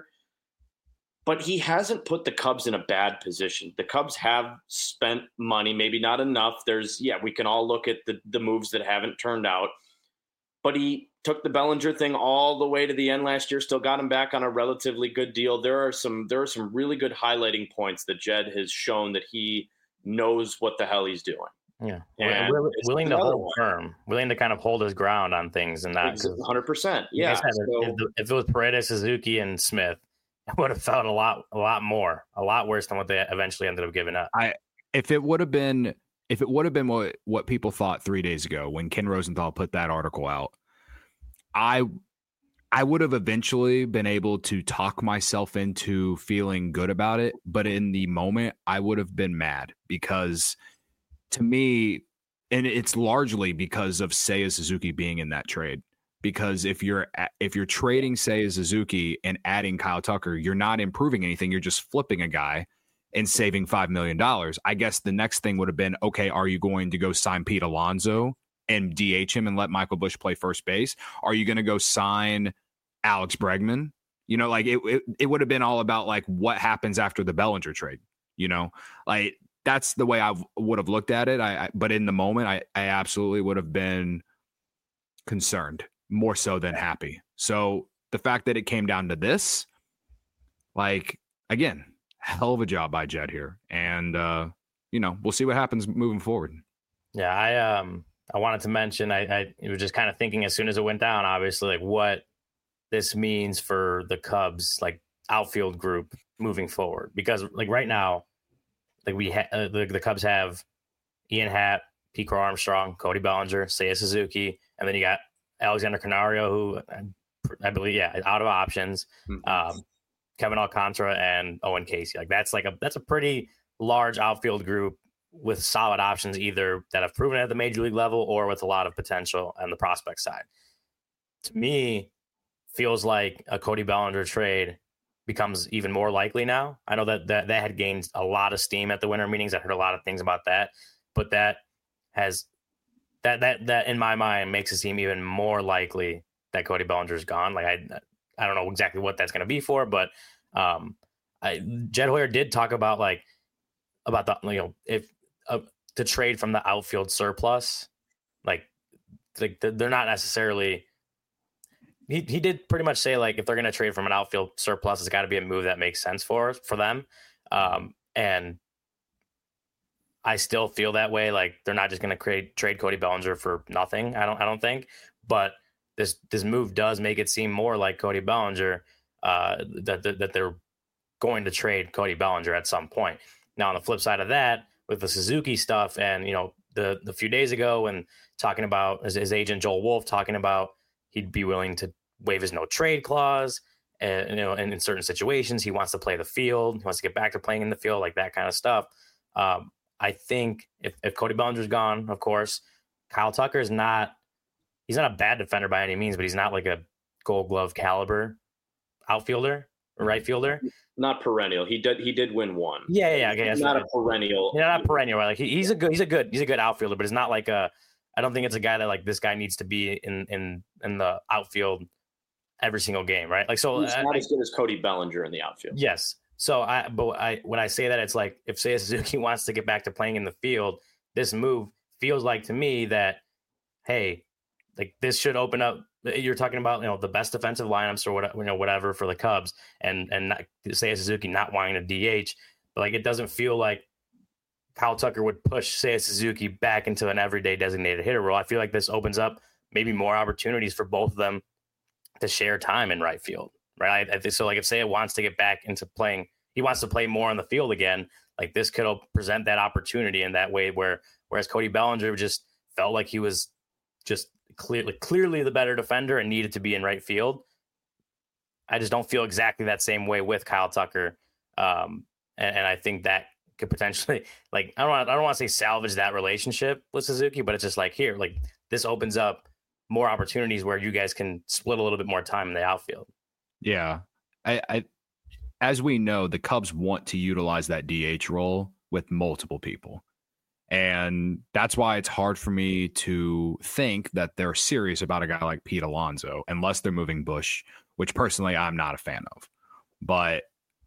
But he hasn't put the Cubs in a bad position. The Cubs have spent money, maybe not enough. We can all look at the moves that haven't turned out. But he took the Bellinger thing all the way to the end last year, still got him back on a relatively good deal. There are some really good highlighting points that Jed has shown that he knows what the hell he's doing. Yeah, and willing to hold firm, willing to kind of hold his ground on things, and not 100%. Yeah, if it was Paredes, Suzuki, and Smith, I would have felt a lot worse than what they eventually ended up giving up. If it would have been what people thought 3 days ago when Ken Rosenthal put that article out, I would have eventually been able to talk myself into feeling good about it. But in the moment, I would have been mad because, to me, and it's largely because of Seiya Suzuki being in that trade. Because if you're trading Seiya Suzuki and adding Kyle Tucker, you're not improving anything. You're just flipping a guy and saving $5 million. I guess the next thing would have been, okay, are you going to go sign Pete Alonso and DH him and let Michael Busch play first base? Are you going to go sign Alex Bregman? It would have been all about like what happens after the Bellinger trade. Like that's the way I would have looked at it. But in the moment, I absolutely would have been concerned more so than happy. So the fact that it came down to this, like, again, hell of a job by Jed here. And, we'll see what happens moving forward. Yeah, I wanted to mention, I was just kind of thinking as soon as it went down, obviously, like what this means for the Cubs, like outfield group moving forward. Because like right now, like the Cubs have Ian Happ, Pete Crow Armstrong, Cody Bellinger, Seiya Suzuki, and then you got Alexander Canario, who I believe, out of options. Kevin Alcantara and Owen Casey. Like that's a pretty large outfield group with solid options, either that have proven at the major league level or with a lot of potential on the prospect side. To me, feels like a Cody Bellinger trade becomes even more likely now. I know that had gained a lot of steam at the winter meetings. I heard a lot of things about that, but that in my mind makes it seem even more likely that Cody Bellinger's gone. Like I don't know exactly what that's going to be for, but Jed Hoyer did talk about if to trade from the outfield surplus, like they're not necessarily. He did pretty much say like if they're going to trade from an outfield surplus, it's got to be a move that makes sense for them. And I still feel that way. Like they're not just going to trade Cody Bellinger for nothing. I don't think. But this move does make it seem more like Cody Bellinger that they're going to trade Cody Bellinger at some point. Now on the flip side of that, with the Suzuki stuff, and the few days ago, and talking about his agent Joel Wolf talking about he'd be willing to waive his no trade clause, and and in certain situations he wants to play the field, he wants to get back to playing in the field, like that kind of stuff. I think if Cody Bellinger's gone, of course, Kyle Tucker he's not a bad defender by any means, but he's not like a Gold Glove caliber outfielder or right fielder. Not perennial. He did win one. Yeah. Okay, he's not a perennial. Yeah, not perennial. Like he's a good outfielder, but it's not like I don't think it's a guy that like this guy needs to be in the outfield every single game, right? Like so, he's not as good as Cody Bellinger in the outfield. Yes. So when I say that, it's like if Seiya Suzuki wants to get back to playing in the field, this move feels like to me that, hey, like this should open up. You're talking about the best defensive lineups or whatever for the Cubs, and not, Seiya Suzuki not wanting to DH, but like it doesn't feel like Kyle Tucker would push Seiya Suzuki back into an everyday designated hitter role. I feel like this opens up maybe more opportunities for both of them to share time in right field, right? I think so. Like if Seiya wants to get back into playing, he wants to play more on the field again. Like this could present that opportunity in that way. Whereas Cody Bellinger just felt like he was just clearly the better defender and needed to be in right field. I just don't feel exactly that same way with Kyle Tucker, and I think that could potentially, like, I don't want to say salvage that relationship with Suzuki, but it's just like here, like this opens up more opportunities where you guys can split a little bit more time in the outfield. Yeah, I as we know, the Cubs want to utilize that DH role with multiple people. And that's why it's hard for me to think that they're serious about a guy like Pete Alonso, unless they're moving Bush, which personally I'm not a fan of. But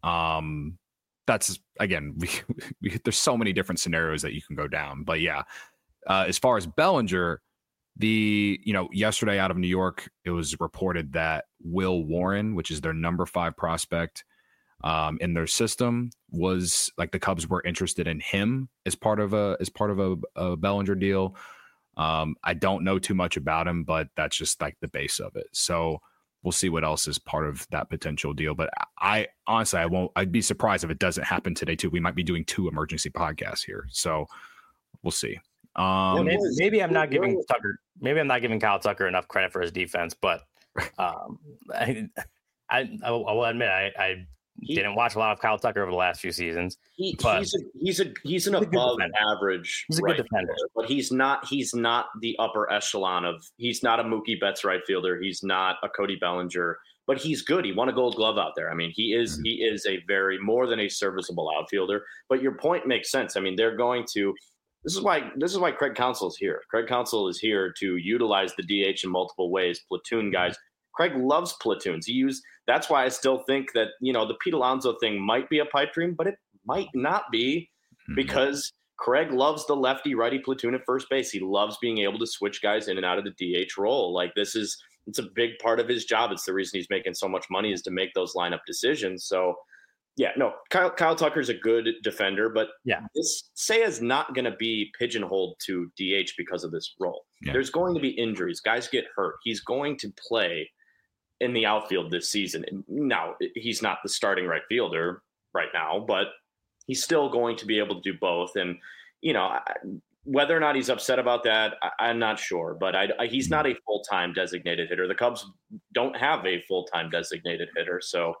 that's, again, there's so many different scenarios that you can go down. But yeah, as far as Bellinger, yesterday out of New York, it was reported that Will Warren, which is their number 5 prospect in their system, was like the Cubs were interested in him as part of a Bellinger deal. I don't know too much about him, but that's just like the base of it. So we'll see what else is part of that potential deal. But I honestly, I'd be surprised if it doesn't happen today too. We might be doing 2 emergency podcasts here, so we'll see. Maybe I'm not giving Kyle Tucker enough credit for his defense, but I will admit I didn't watch a lot of Kyle Tucker over the last few seasons. He's an above average. He's a good defender, but he's not the upper echelon of. He's not a Mookie Betts right fielder. He's not a Cody Bellinger, but he's good. He won a Gold Glove out there. I mean, he is a very more than a serviceable outfielder. But your point makes sense. I mean, they're going to. This is why Craig Counsell is here. Craig Counsell is here to utilize the DH in multiple ways. Platoon guys. Craig loves platoons. That's why I still think that, the Pete Alonso thing might be a pipe dream, but it might not be, because Craig loves the lefty righty platoon at first base. He loves being able to switch guys in and out of the DH role. Like it's a big part of his job. It's the reason he's making so much money, is to make those lineup decisions. So yeah, no, Kyle Tucker's a good defender, but this Seiya's not going to be pigeonholed to DH because of this role. Yeah. There's going to be injuries. Guys get hurt. He's going to play in the outfield this season. Now, he's not the starting right fielder right now, but he's still going to be able to do both. And, whether or not he's upset about that, I'm not sure. But he's not a full-time designated hitter. The Cubs don't have a full-time designated hitter. So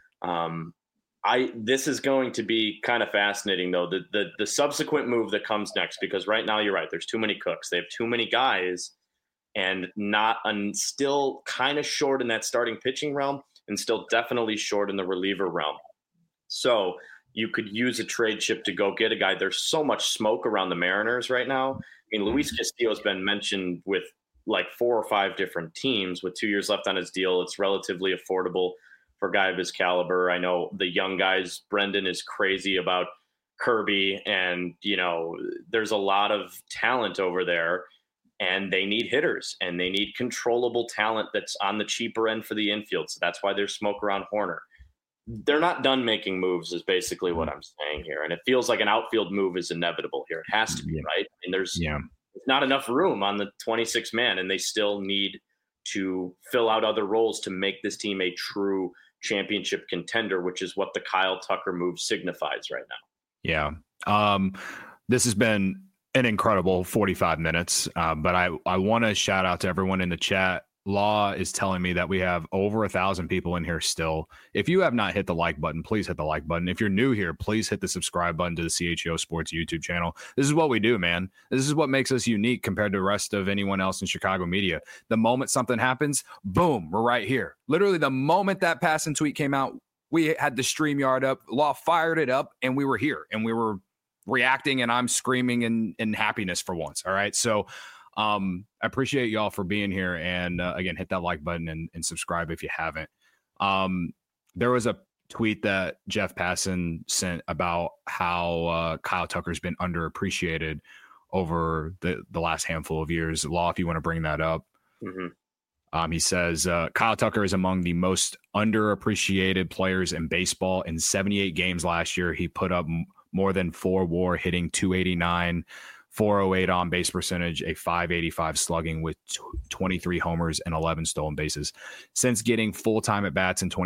this is going to be kind of fascinating, though, the subsequent move that comes next, because right now you're right. There's too many cooks. They have too many guys, and still kind of short in that starting pitching realm, and still definitely short in the reliever realm. So you could use a trade chip to go get a guy. There's so much smoke around the Mariners right now. I mean, Luis Castillo has been mentioned with like 4 or 5 different teams with 2 years left on his deal. It's relatively affordable for a guy of his caliber. I know the young guys, Brendan is crazy about Kirby, and, there's a lot of talent over there. And they need hitters, and they need controllable talent that's on the cheaper end for the infield. So that's why there's smoke around Horner. they're not done making moves is basically what I'm saying here. And it feels like an outfield move is inevitable here. It has to be, right? I mean, there's not enough room on the 26 man, and they still need to fill out other roles to make this team a true championship contender, which is what the Kyle Tucker move signifies right now. Yeah. This has been an incredible 45 minutes, but I want to shout out to everyone in the chat. Law is telling me that we have over 1,000 people in here still. If you have not hit the like button, please hit the like button. If you're new here, please hit the subscribe button to the CHGO Sports YouTube channel. This is what we do, man. This is what makes us unique compared to the rest of anyone else in Chicago media. The moment something happens, boom, we're right here. Literally the moment that passing tweet came out, we had the StreamYard up, Law fired it up, and we were here, and we were reacting, and I'm screaming in happiness for once. All right. So I appreciate y'all for being here. And again, hit that like button and subscribe if you haven't. There was a tweet that Jeff Passan sent about how Kyle Tucker's been underappreciated over the last handful of years. Law, if you want to bring that up. Mm-hmm. He says Kyle Tucker is among the most underappreciated players in baseball. In 78 games last year, he put up more than 4 WAR, hitting .289, 408 on base percentage, a .585 slugging with 23 homers and 11 stolen bases. Since getting full-time at bats in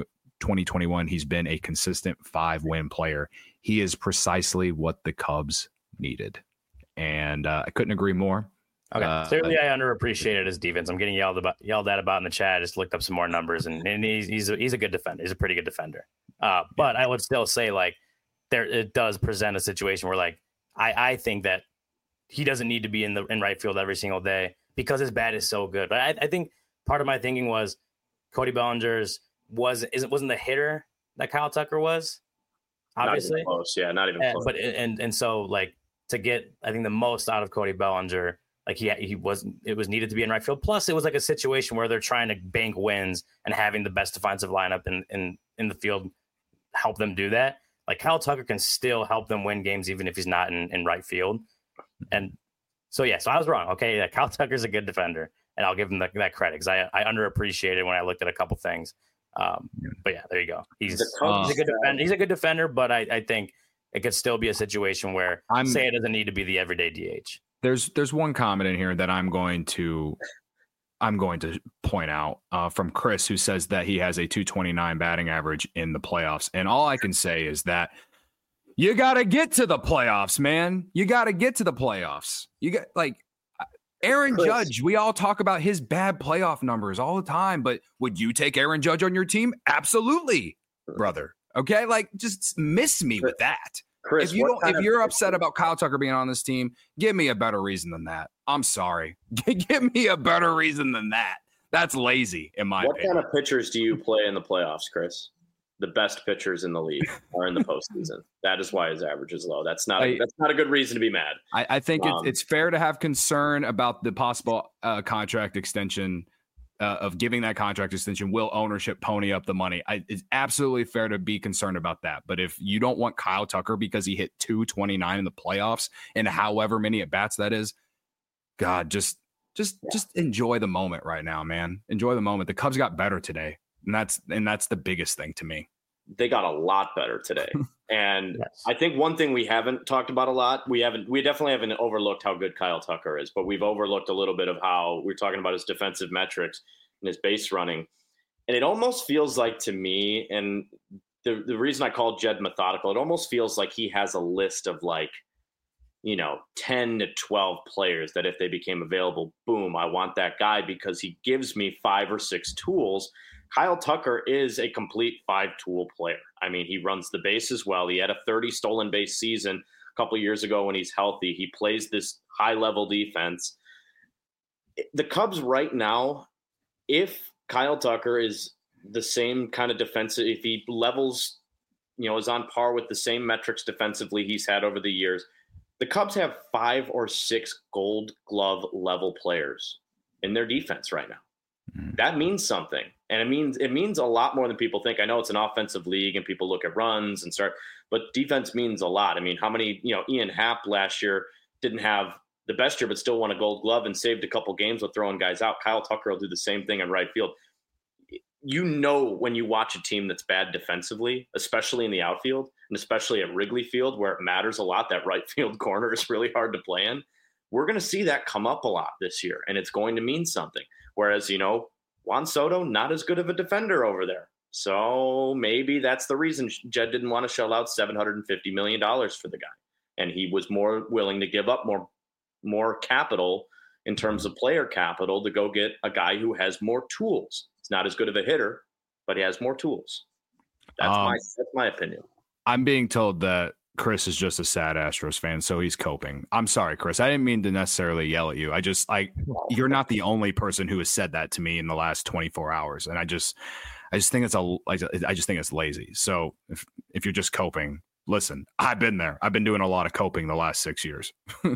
2021, he's been a consistent 5-win player. He is precisely what the Cubs needed. And I couldn't agree more. Okay. Clearly, I underappreciated his defense. I'm getting yelled at about in the chat. I just looked up some more numbers, and he's a good defender. He's a pretty good defender. But I would still say, like, it does present a situation where, like, I think that he doesn't need to be in right field every single day because his bat is so good. But I think part of my thinking was Cody Bellinger's wasn't the hitter that Kyle Tucker was. Obviously, not even close. Yeah, not even close. But and so, like, to get, I think, the most out of Cody Bellinger, like it was needed to be in right field. Plus, it was like a situation where they're trying to bank wins, and having the best defensive lineup in the field help them do that. Like, Kyle Tucker can still help them win games even if he's not in right field. And so I was wrong. Okay, yeah, Kyle Tucker's a good defender, and I'll give him that credit because I underappreciated when I looked at a couple things. But yeah, there you go. He's a good defender. He's a good defender, but I think it could still be a situation where say it doesn't need to be the everyday DH. There's one comment in here that I'm going to point out from Chris, who says that he has a .229 batting average in the playoffs. And all I can say is that you got to get to the playoffs, man. You got to get to the playoffs. You got, like, Aaron Judge. We all talk about his bad playoff numbers all the time, but would you take Aaron Judge on your team? Absolutely, brother. Okay, like, just miss me with that. Chris, if you're upset about Kyle Tucker being on this team, give me a better reason than that. I'm sorry. Give me a better reason than that. That's lazy, in my opinion. What kind of pitchers do you play in the playoffs, Chris? The best pitchers in the league are in the postseason. That is why his average is low. That's not a good reason to be mad. I think it's fair to have concern about the possible contract extension. Of giving that contract extension, will ownership pony up the money? It's absolutely fair to be concerned about that. But if you don't want Kyle Tucker because he hit .229 in the playoffs and however many at bats that is, God, just enjoy the moment right now, man. Enjoy the moment. The Cubs got better today, and that's the biggest thing to me. They got a lot better today. And yes. I think one thing we haven't talked about a lot, we definitely haven't overlooked how good Kyle Tucker is, but we've overlooked a little bit of how we're talking about his defensive metrics and his base running. And it almost feels like, to me, and the reason I call Jed methodical, it almost feels like he has a list of, like, 10 to 12 players that if they became available, boom, I want that guy because he gives me 5 or 6 tools. Kyle Tucker is a complete 5-tool player. I mean, he runs the bases well. He had a 30 stolen base season a couple of years ago when he's healthy. He plays this high-level defense. The Cubs right now, if Kyle Tucker is the same kind of defensive, if he levels, is on par with the same metrics defensively he's had over the years, the Cubs have 5 or 6 Gold Glove level players in their defense right now. That means something. And it means a lot more than people think. I know it's an offensive league and people look at runs but defense means a lot. I mean, how many, Ian Happ last year didn't have the best year, but still won a Gold Glove and saved a couple games with throwing guys out. Kyle Tucker will do the same thing in right field. when you watch a team that's bad defensively, especially in the outfield and especially at Wrigley Field where it matters a lot, that right field corner is really hard to play in. We're going to see that come up a lot this year, and it's going to mean something. Whereas, Juan Soto, not as good of a defender over there. So maybe that's the reason Jed didn't want to shell out $750 million for the guy. And he was more willing to give up more capital in terms of player capital to go get a guy who has more tools. He's not as good of a hitter, but he has more tools. That's my opinion. I'm being told that Chris is just a sad Astros fan, so he's coping. I'm sorry, Chris. I didn't mean to necessarily yell at you. You're not the only person who has said that to me in the last 24 hours, and I just think it's lazy. So if you're just coping, listen, I've been there. I've been doing a lot of coping the last 6 years.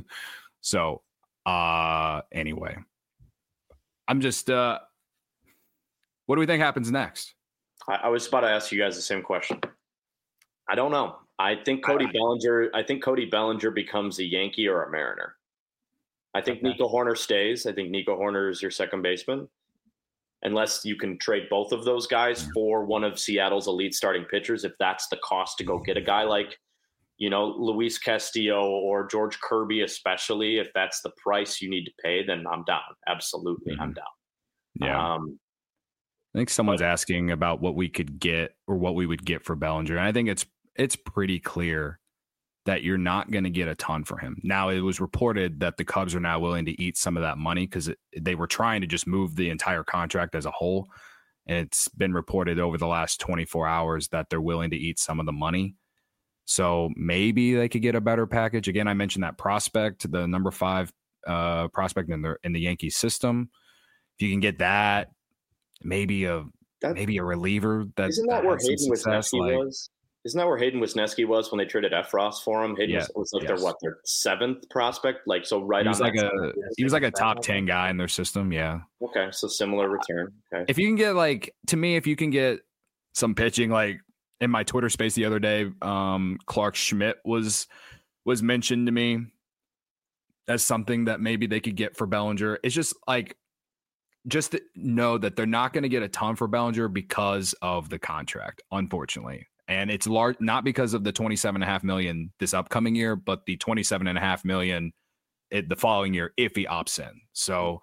So anyway, I'm just what do we think happens next? I was about to ask you guys the same question. I don't know. I think Cody Bellinger becomes a Yankee or a Mariner. I think Nico Hoerner stays. I think Nico Hoerner is your second baseman. Unless you can trade both of those guys for one of Seattle's elite starting pitchers, if that's the cost to go get a guy like, Luis Castillo or George Kirby, especially, if that's the price you need to pay, then I'm down. Absolutely, I'm down. Yeah. I think someone's asking about what we could get or what we would get for Bellinger. And I think it's pretty clear that you're not going to get a ton for him. Now, it was reported that the Cubs are now willing to eat some of that money because they were trying to just move the entire contract as a whole. And it's been reported over the last 24 hours that they're willing to eat some of the money. So maybe they could get a better package. Again, I mentioned that prospect, the number 5 prospect in the Yankees system. If you can get that, maybe a reliever. Isn't that where Hayden Wesneski was? Isn't that where Hayden Wesneski was when they traded Efros for him? Hayden was their 7th prospect? He was like a top 10 guy in their system. Yeah. Okay. So similar return. Okay. If you can get if you can get some pitching, in my Twitter space the other day, Clark Schmidt was mentioned to me as something that maybe they could get for Bellinger. It's just just to know that they're not going to get a ton for Bellinger because of the contract, unfortunately. And it's large, not because of the $27.5 million this upcoming year, but the $27.5 million the following year if he opts in. So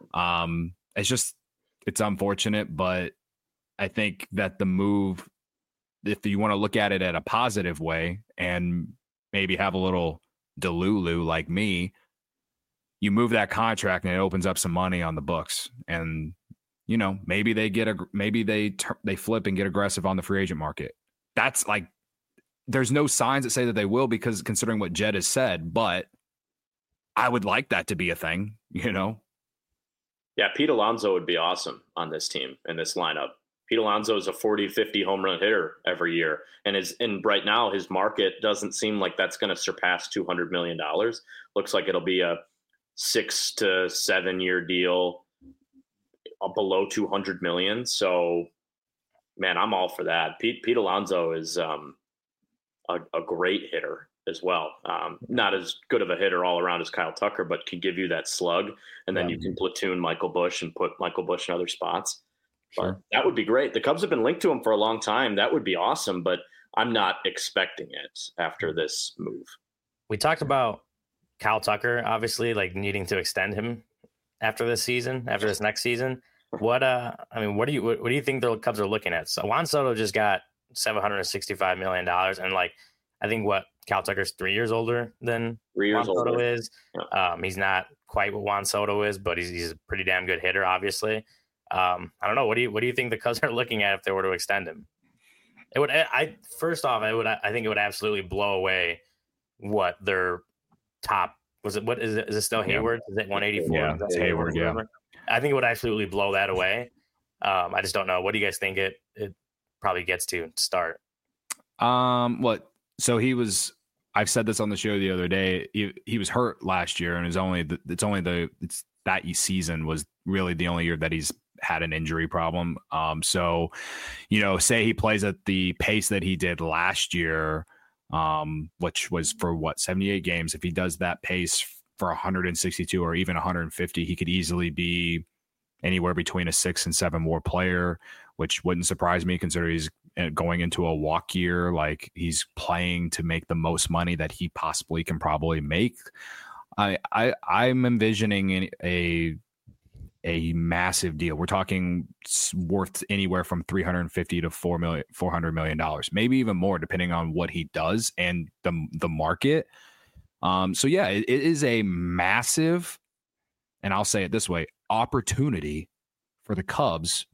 it's unfortunate, but I think that the move, if you want to look at it at a positive way and maybe have a little delulu like me, you move that contract and it opens up some money on the books. And, maybe they flip and get aggressive on the free agent market. That's there's no signs that say that they will, because considering what Jed has said, but I would like that to be a thing, Yeah, Pete Alonso would be awesome on this team in this lineup. Pete Alonso is a 40, 50 home run hitter every year. And right now his market doesn't seem like that's going to surpass $200 million. Looks like it'll be a 6 to 7 year deal below $200 million. So, man, I'm all for that. Pete Alonso is a great hitter as well. Not as good of a hitter all around as Kyle Tucker, but can give you that slug. And then you can platoon Michael Busch and put Michael Busch in other spots. Sure. But that would be great. The Cubs have been linked to him for a long time. That would be awesome, but I'm not expecting it after this move. We talked about Kyle Tucker, obviously, needing to extend him after this next season. What do you think the Cubs are looking at? So Juan Soto just got $765 million, and I think Kyle Tucker's 3 years older than Juan Soto is. Yeah. He's not quite what Juan Soto is, but he's a pretty damn good hitter, obviously. I don't know. What do you think the Cubs are looking at if they were to extend him? It would. I think it would absolutely blow away what their top was. It what is it? Is it still Hayward? Is it 184? Yeah, it's Hayward. Yeah. I think it would absolutely blow that away. I just don't know. What do you guys think it probably gets to start? So I've said this on the show the other day. He was hurt last year, and that season was really the only year that he's had an injury problem. So, say he plays at the pace that he did last year, which was for 78 games. If he does that pace for 162 or even 150, he could easily be anywhere between a 6 and 7 WAR player. which wouldn't surprise me considering he's going into a walk year. Like, he's playing to make the most money that he possibly can probably make. I'm envisioning a massive deal. We're talking worth anywhere from $350 to $400 million, maybe even more, depending on what he does and the market. So yeah, it is a massive, and I'll say it this way, opportunity for the Cubs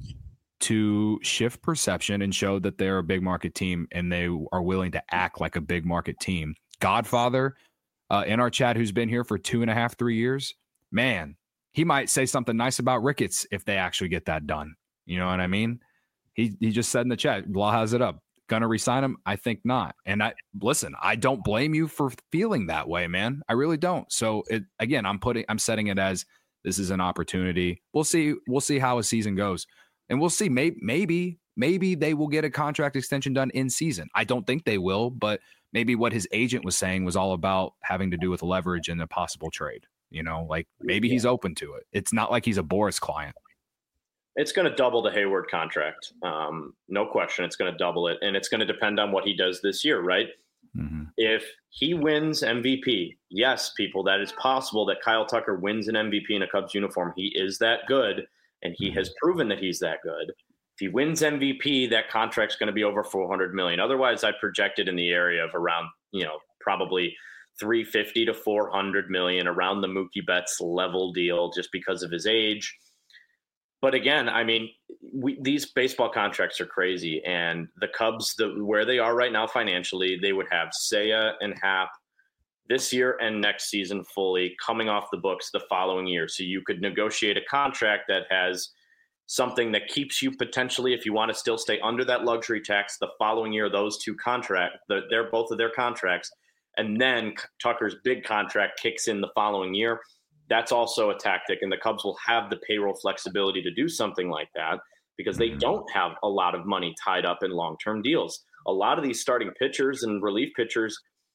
to shift perception and show that they're a big market team and they are willing to act like a big market team. Godfather in our chat, who's been here for 2.5, 3 years, man, he might say something nice about Ricketts if they actually get that done. You know what I mean? He just said in the chat, Law has it up. Gonna resign him? I think not. And I don't blame you for feeling that way, man. I really don't. So again, I'm setting it as this is an opportunity. We'll see how a season goes. And we'll see. Maybe they will get a contract extension done in season. I don't think they will, but maybe what his agent was saying was all about having to do with leverage and a possible trade. You know, like maybe he's open to it. It's not like he's a Boris client. It's going to double the Hayward contract. No question. It's going to double it. And it's going to depend on what he does this year, right? Mm-hmm. If he wins MVP, yes, people, that is possible that Kyle Tucker wins an MVP in a Cubs uniform. He is that good, and he has proven that he's that good. If he wins MVP, that contract's going to be over $400 million. Otherwise, I projected in the area of around, probably $350 to $400 million, around the Mookie Betts level deal, just because of his age. But again, I mean, these baseball contracts are crazy, and the Cubs, where they are right now financially, they would have Seiya and Happ this year and next season fully coming off the books the following year. So you could negotiate a contract that has something that keeps you potentially, if you want to still stay under that luxury tax, the following year, those two they're both of their contracts. And then Tucker's big contract kicks in the following year. That's also a tactic, and the Cubs will have the payroll flexibility to do something like that because they don't have a lot of money tied up in long-term deals. A lot of these starting pitchers and relief pitchers,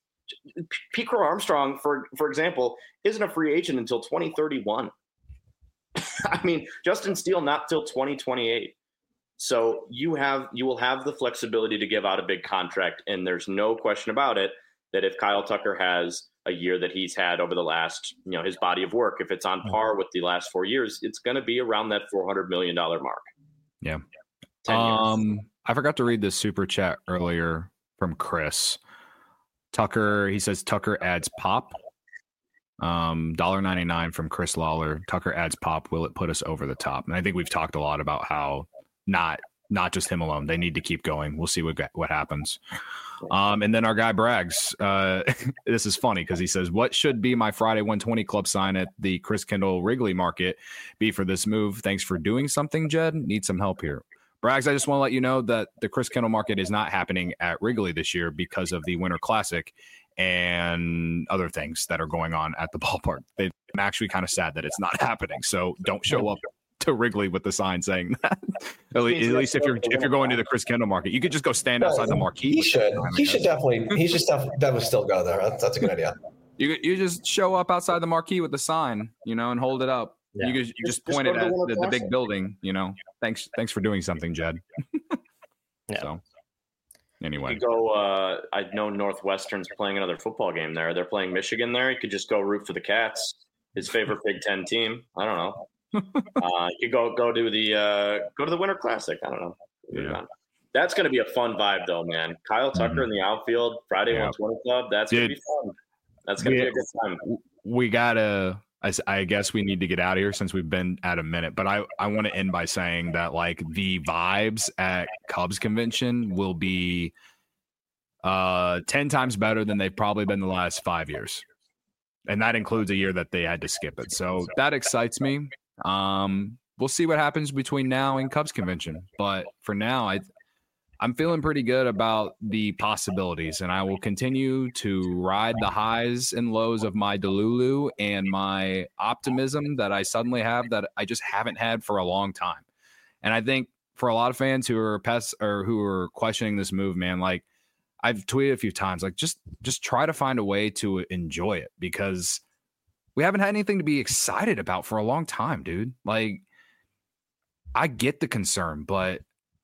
Pete Crow Armstrong, for example, isn't a free agent until 2031. I mean, Justin Steele not till 2028. So you will have the flexibility to give out a big contract, and there's no question about it that if Kyle Tucker has a year that he's had over the last, his body of work, if it's on par with the last 4 years, it's going to be around that $400 million mark. Yeah. I forgot to read this super chat earlier from Chris. Tucker, he says Tucker adds pop. $1.99 from Chris Lawler. Tucker adds pop. Will it put us over the top? And I think we've talked a lot about how not just him alone. They need to keep going. We'll see what happens. And then our guy brags. This is funny because he says, what should be my Friday 120 club sign at the Chris Kendall Wrigley market be for this move? Thanks for doing something, Jed. Need some help here. Brags, I just want to let you know that the Chris Kendall market is not happening at Wrigley this year because of the Winter Classic and other things that are going on at the ballpark. I'm actually kind of sad that it's not happening. So don't show up to Wrigley with the sign saying that. At least if you're going to the Chris Kendall market, you could just go stand outside the marquee. He should definitely still go there. That's a good idea. You just show up outside the marquee with the sign, and hold it up. Yeah. You just point it at the big building, Thanks for doing something, Jed. Yeah. So anyway, you go. I know Northwestern's playing another football game there. They're playing Michigan there. You could just go root for the Cats, his favorite Big Ten team. I don't know. You go to the Winter Classic. I don't know. Yeah. That's going to be a fun vibe, though, man. Kyle Tucker in the outfield, Friday 120 Club. That's going to be fun. That's going to be a good time. We gotta. I guess we need to get out of here since we've been at a minute. But I want to end by saying that the vibes at Cubs convention will be 10 times better than they've probably been the last 5 years, and that includes a year that they had to skip it. So that excites me. We'll see what happens between now and Cubs convention, but for now I'm feeling pretty good about the possibilities, and I will continue to ride the highs and lows of my Delulu and my optimism that I suddenly have that I just haven't had for a long time. And I think for a lot of fans who are who are questioning this move, man, I've tweeted a few times, just try to find a way to enjoy it because we haven't had anything to be excited about for a long time, dude. I get the concern, but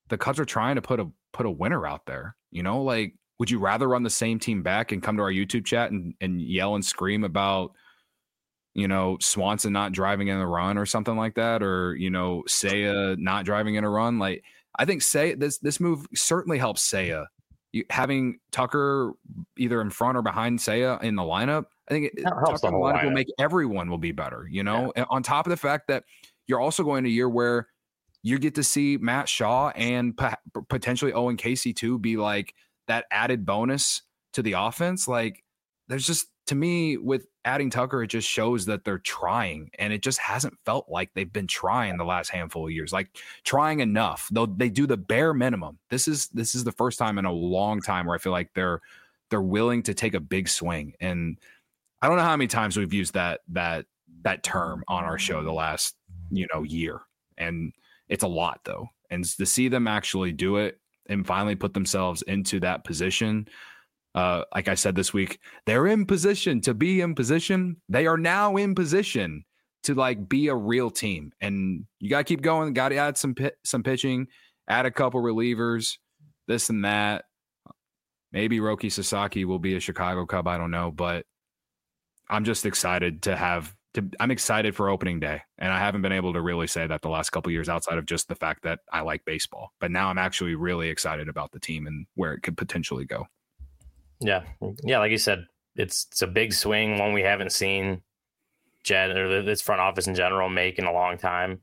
the Cubs are trying to put a winner out there. You know, like, would you rather run the same team back and come to our YouTube chat and yell and scream about, you know, Swanson not driving in a run or something like that, or, you know, Seiya not driving in a run? Like, I think this move certainly helps Seiya. Having Tucker either in front or behind Seiya in the lineup, I think Tucker in the lineup will make everyone will be better, you know, and on top of the fact that you're also going to a year where you get to see Matt Shaw and potentially Owen Casey too be like that added bonus to the offense. Like, there's just, to me, with adding Tucker, it just shows that they're trying, and it just hasn't felt like they've been trying the last handful of years, like trying enough, though they do the bare minimum. This is the first time in a long time where I feel like they're willing to take a big swing. And I don't know how many times we've used that term on our show the last, you know, year, and it's a lot though. And to see them actually do it and finally put themselves into that position, like I said this week, they're in position to be in position. They are now in position to like be a real team, and you got to keep going. Got to add some pitching, add a couple relievers, this and that. Maybe Roki Sasaki will be a Chicago Cub. I don't know, but I'm just excited I'm excited for opening day, and I haven't been able to really say that the last couple of years outside of just the fact that I like baseball. But now I'm actually really excited about the team and where it could potentially go. Yeah. Like you said, it's a big swing, one we haven't seen Jed or this front office in general make in a long time.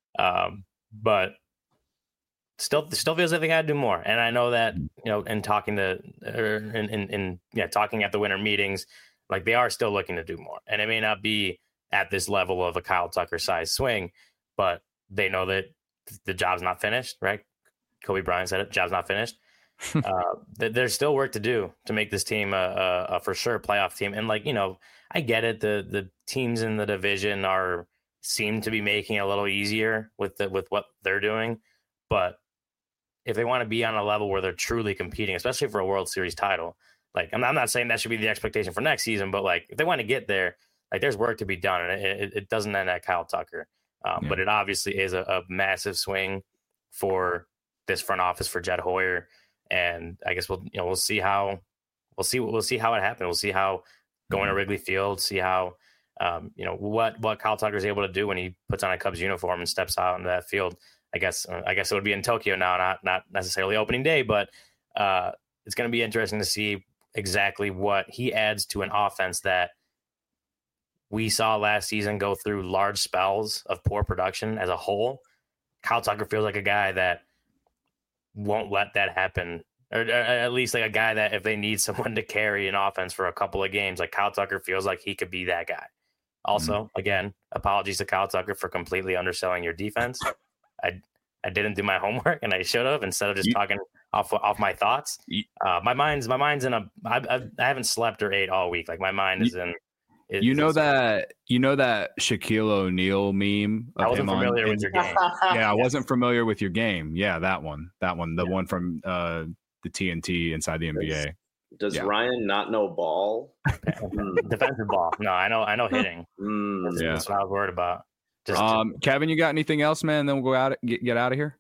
But still feels like they got to do more. And I know that, you know, in talking to talking at the winter meetings, like, they are still looking to do more. And it may not be at this level of a Kyle Tucker size swing, but they know that the job's not finished, right? Kobe Bryant said it, job's not finished. There's still work to do to make this team a for sure playoff team. And, like, you know, I get it. The teams in the division seem to be making it a little easier with what they're doing. But if they want to be on a level where they're truly competing, especially for a World Series title, like, I'm not saying that should be the expectation for next season, but, like, if they want to get there, like, there's work to be done, and it doesn't end at Kyle Tucker. But it obviously is a massive swing for this front office for Jed Hoyer. And I guess we'll see how it happens. We'll see how going to Wrigley Field, see how what Kyle Tucker is able to do when he puts on a Cubs uniform and steps out into that field. I guess it would be in Tokyo now, not necessarily opening day, but it's going to be interesting to see exactly what he adds to an offense that we saw last season go through large spells of poor production as a whole. Kyle Tucker feels like a guy that won't let that happen, or at least like a guy that if they need someone to carry an offense for a couple of games, like Kyle Tucker feels like he could be that guy. Also, again, apologies to Kyle Tucker for completely underselling your defense. I didn't do my homework, and I should have, instead of just talking off my thoughts. My mind's in I haven't slept or ate all week. Like, my mind is in. You know that Shaquille O'Neal meme? I wasn't familiar with your game. Yeah, I wasn't familiar with your game. Yeah, that one, the one from the TNT inside the NBA. Does Ryan not know ball? Defensive ball. No, I know hitting. That's what I was worried about. Kevin, you got anything else, man? Then we'll go out get out of here.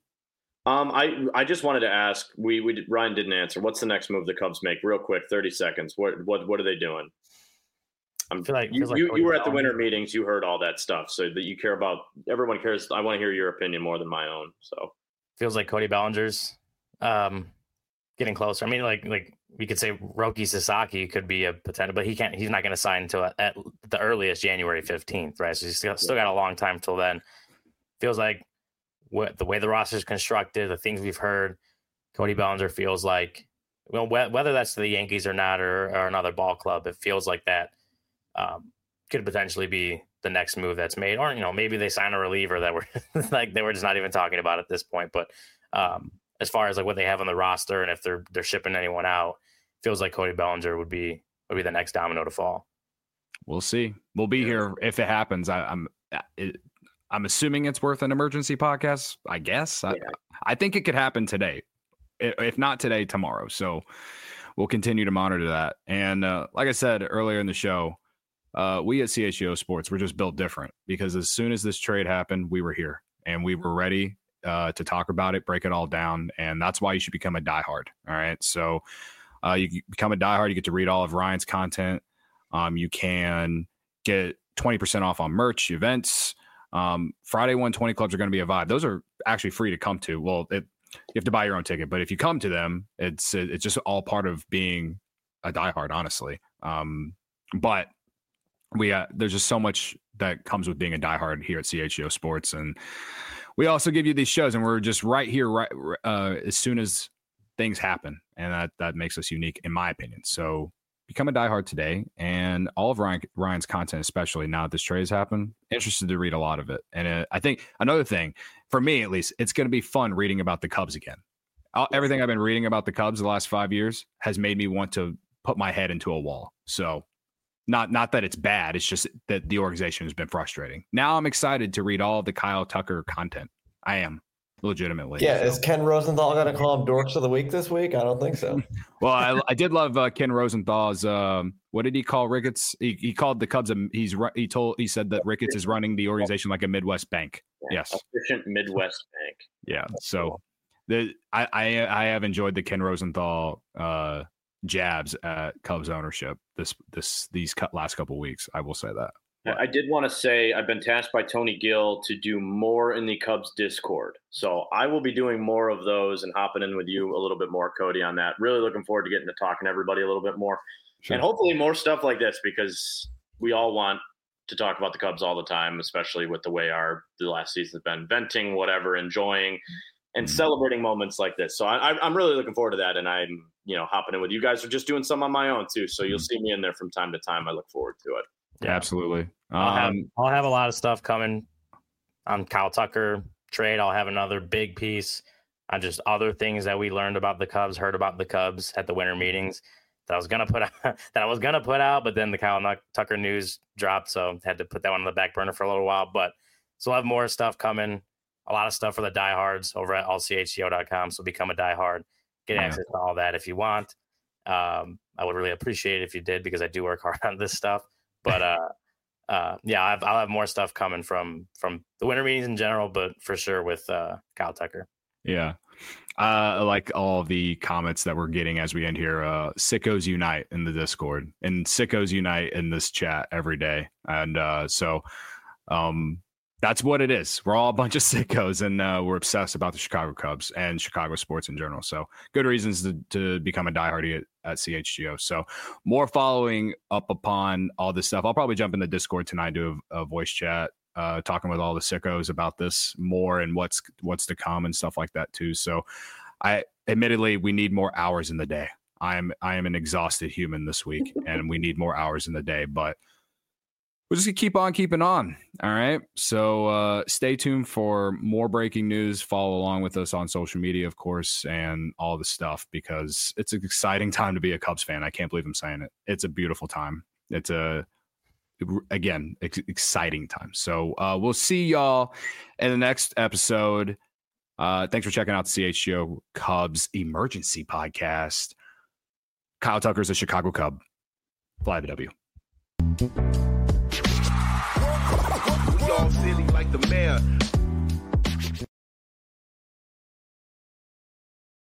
I just wanted to ask. Ryan didn't answer. What's the next move the Cubs make? Real quick, 30 seconds. What are they doing? You were at the winter meetings. You heard all that stuff, so that you care about. Everyone cares. I want to hear your opinion more than my own. So feels like Cody Bellinger's getting closer. I mean, like we could say Roki Sasaki could be a potential, but he can't. He's not going to sign until at the earliest January 15th, right? So he's still got a long time till then. Feels like the way the roster is constructed, the things we've heard, Cody Bellinger feels like, well, whether that's to the Yankees or not, or another ball club, it feels like that. Could potentially be the next move that's made, or maybe they sign a reliever that we're like they were just not even talking about at this point. But as far as like what they have on the roster and if they're shipping anyone out, feels like Cody Bellinger would be the next domino to fall. We'll see. We'll be here if it happens. I'm assuming it's worth an emergency podcast. I guess. Yeah. I think it could happen today, if not today, tomorrow. So we'll continue to monitor that. And like I said earlier in the show. We at CHGO Sports, we're just built different because as soon as this trade happened, we were here and we were ready. to talk about it, break it all down. And that's why you should become a diehard. All right. So you become a diehard. You get to read all of Ryan's content. You can get 20% off on merch, events. Friday 120 clubs are going to be a vibe. Those are actually free to come to. Well, you have to buy your own ticket, but if you come to them, it's just all part of being a diehard, honestly. But there's just so much that comes with being a diehard here at CHGO Sports, and we also give you these shows, and we're just right here, as soon as things happen, and that makes us unique, in my opinion. So become a diehard today, and all of Ryan's content, especially now that this trade has happened, interested to read a lot of it. And I think another thing, for me at least, it's going to be fun reading about the Cubs again. Everything I've been reading about the Cubs the last 5 years has made me want to put my head into a wall. So not that it's bad, it's just that the organization has been frustrating. Now I'm excited to read all of the Kyle Tucker content. I am. Legitimately. Yeah, is Ken Rosenthal going to call him Dorks of the Week this week? I don't think so. Well, I did love Ken Rosenthal's. What did he call Ricketts? He called the Cubs. He said that Ricketts is running the organization like a Midwest bank. Yes, efficient Midwest bank. Yeah. So I have enjoyed the Ken Rosenthal jabs at Cubs ownership these last couple of weeks. I will say that. I did want to say I've been tasked by Tony Gill to do more in the Cubs Discord. So I will be doing more of those and hopping in with you a little bit more, Cody, on that. Really looking forward to getting to talking to everybody a little bit more. Sure. And hopefully more stuff like this, because we all want to talk about the Cubs all the time, especially with the way the last season's been, venting, whatever, enjoying and celebrating moments like this. So I'm really looking forward to that. And I'm, hopping in with you guys, or just doing some on my own too. So you'll see me in there from time to time. I look forward to it. Yeah, absolutely. I'll have a lot of stuff coming on Kyle Tucker trade. I'll have another big piece on just other things that we learned about the Cubs, heard about the Cubs at the winter meetings that I was gonna put out, but then the Kyle Tucker news dropped, so had to put that one on the back burner for a little while. But so I'll have more stuff coming, a lot of stuff for the diehards over at allchgo.com. So become a diehard, get access to all that if you want. I would really appreciate it if you did, because I do work hard on this stuff. But I'll have more stuff coming from the winter meetings in general, but for sure with Kyle Tucker. Yeah. I like all of the comments that we're getting as we end here. Sickos unite in the Discord, and sickos unite in this chat every day. And so that's what it is. We're all a bunch of sickos, and we're obsessed about the Chicago Cubs and Chicago sports in general. So good reasons to become a diehard at CHGO. So more following up upon all this stuff. I'll probably jump in the Discord tonight, do a voice chat, talking with all the sickos about this more and what's to come and stuff like that too. So admittedly, we need more hours in the day. I am an exhausted human this week, and we need more hours in the day, but we're just going to keep on keeping on. All right. So stay tuned for more breaking news. Follow along with us on social media, of course, and all the stuff, because it's an exciting time to be a Cubs fan. I can't believe I'm saying it. It's a beautiful time. It's exciting time. So we'll see y'all in the next episode. Thanks for checking out the CHGO Cubs Emergency Podcast. Kyle Tucker's a Chicago Cub. Fly the W. Y'all silly like the mayor.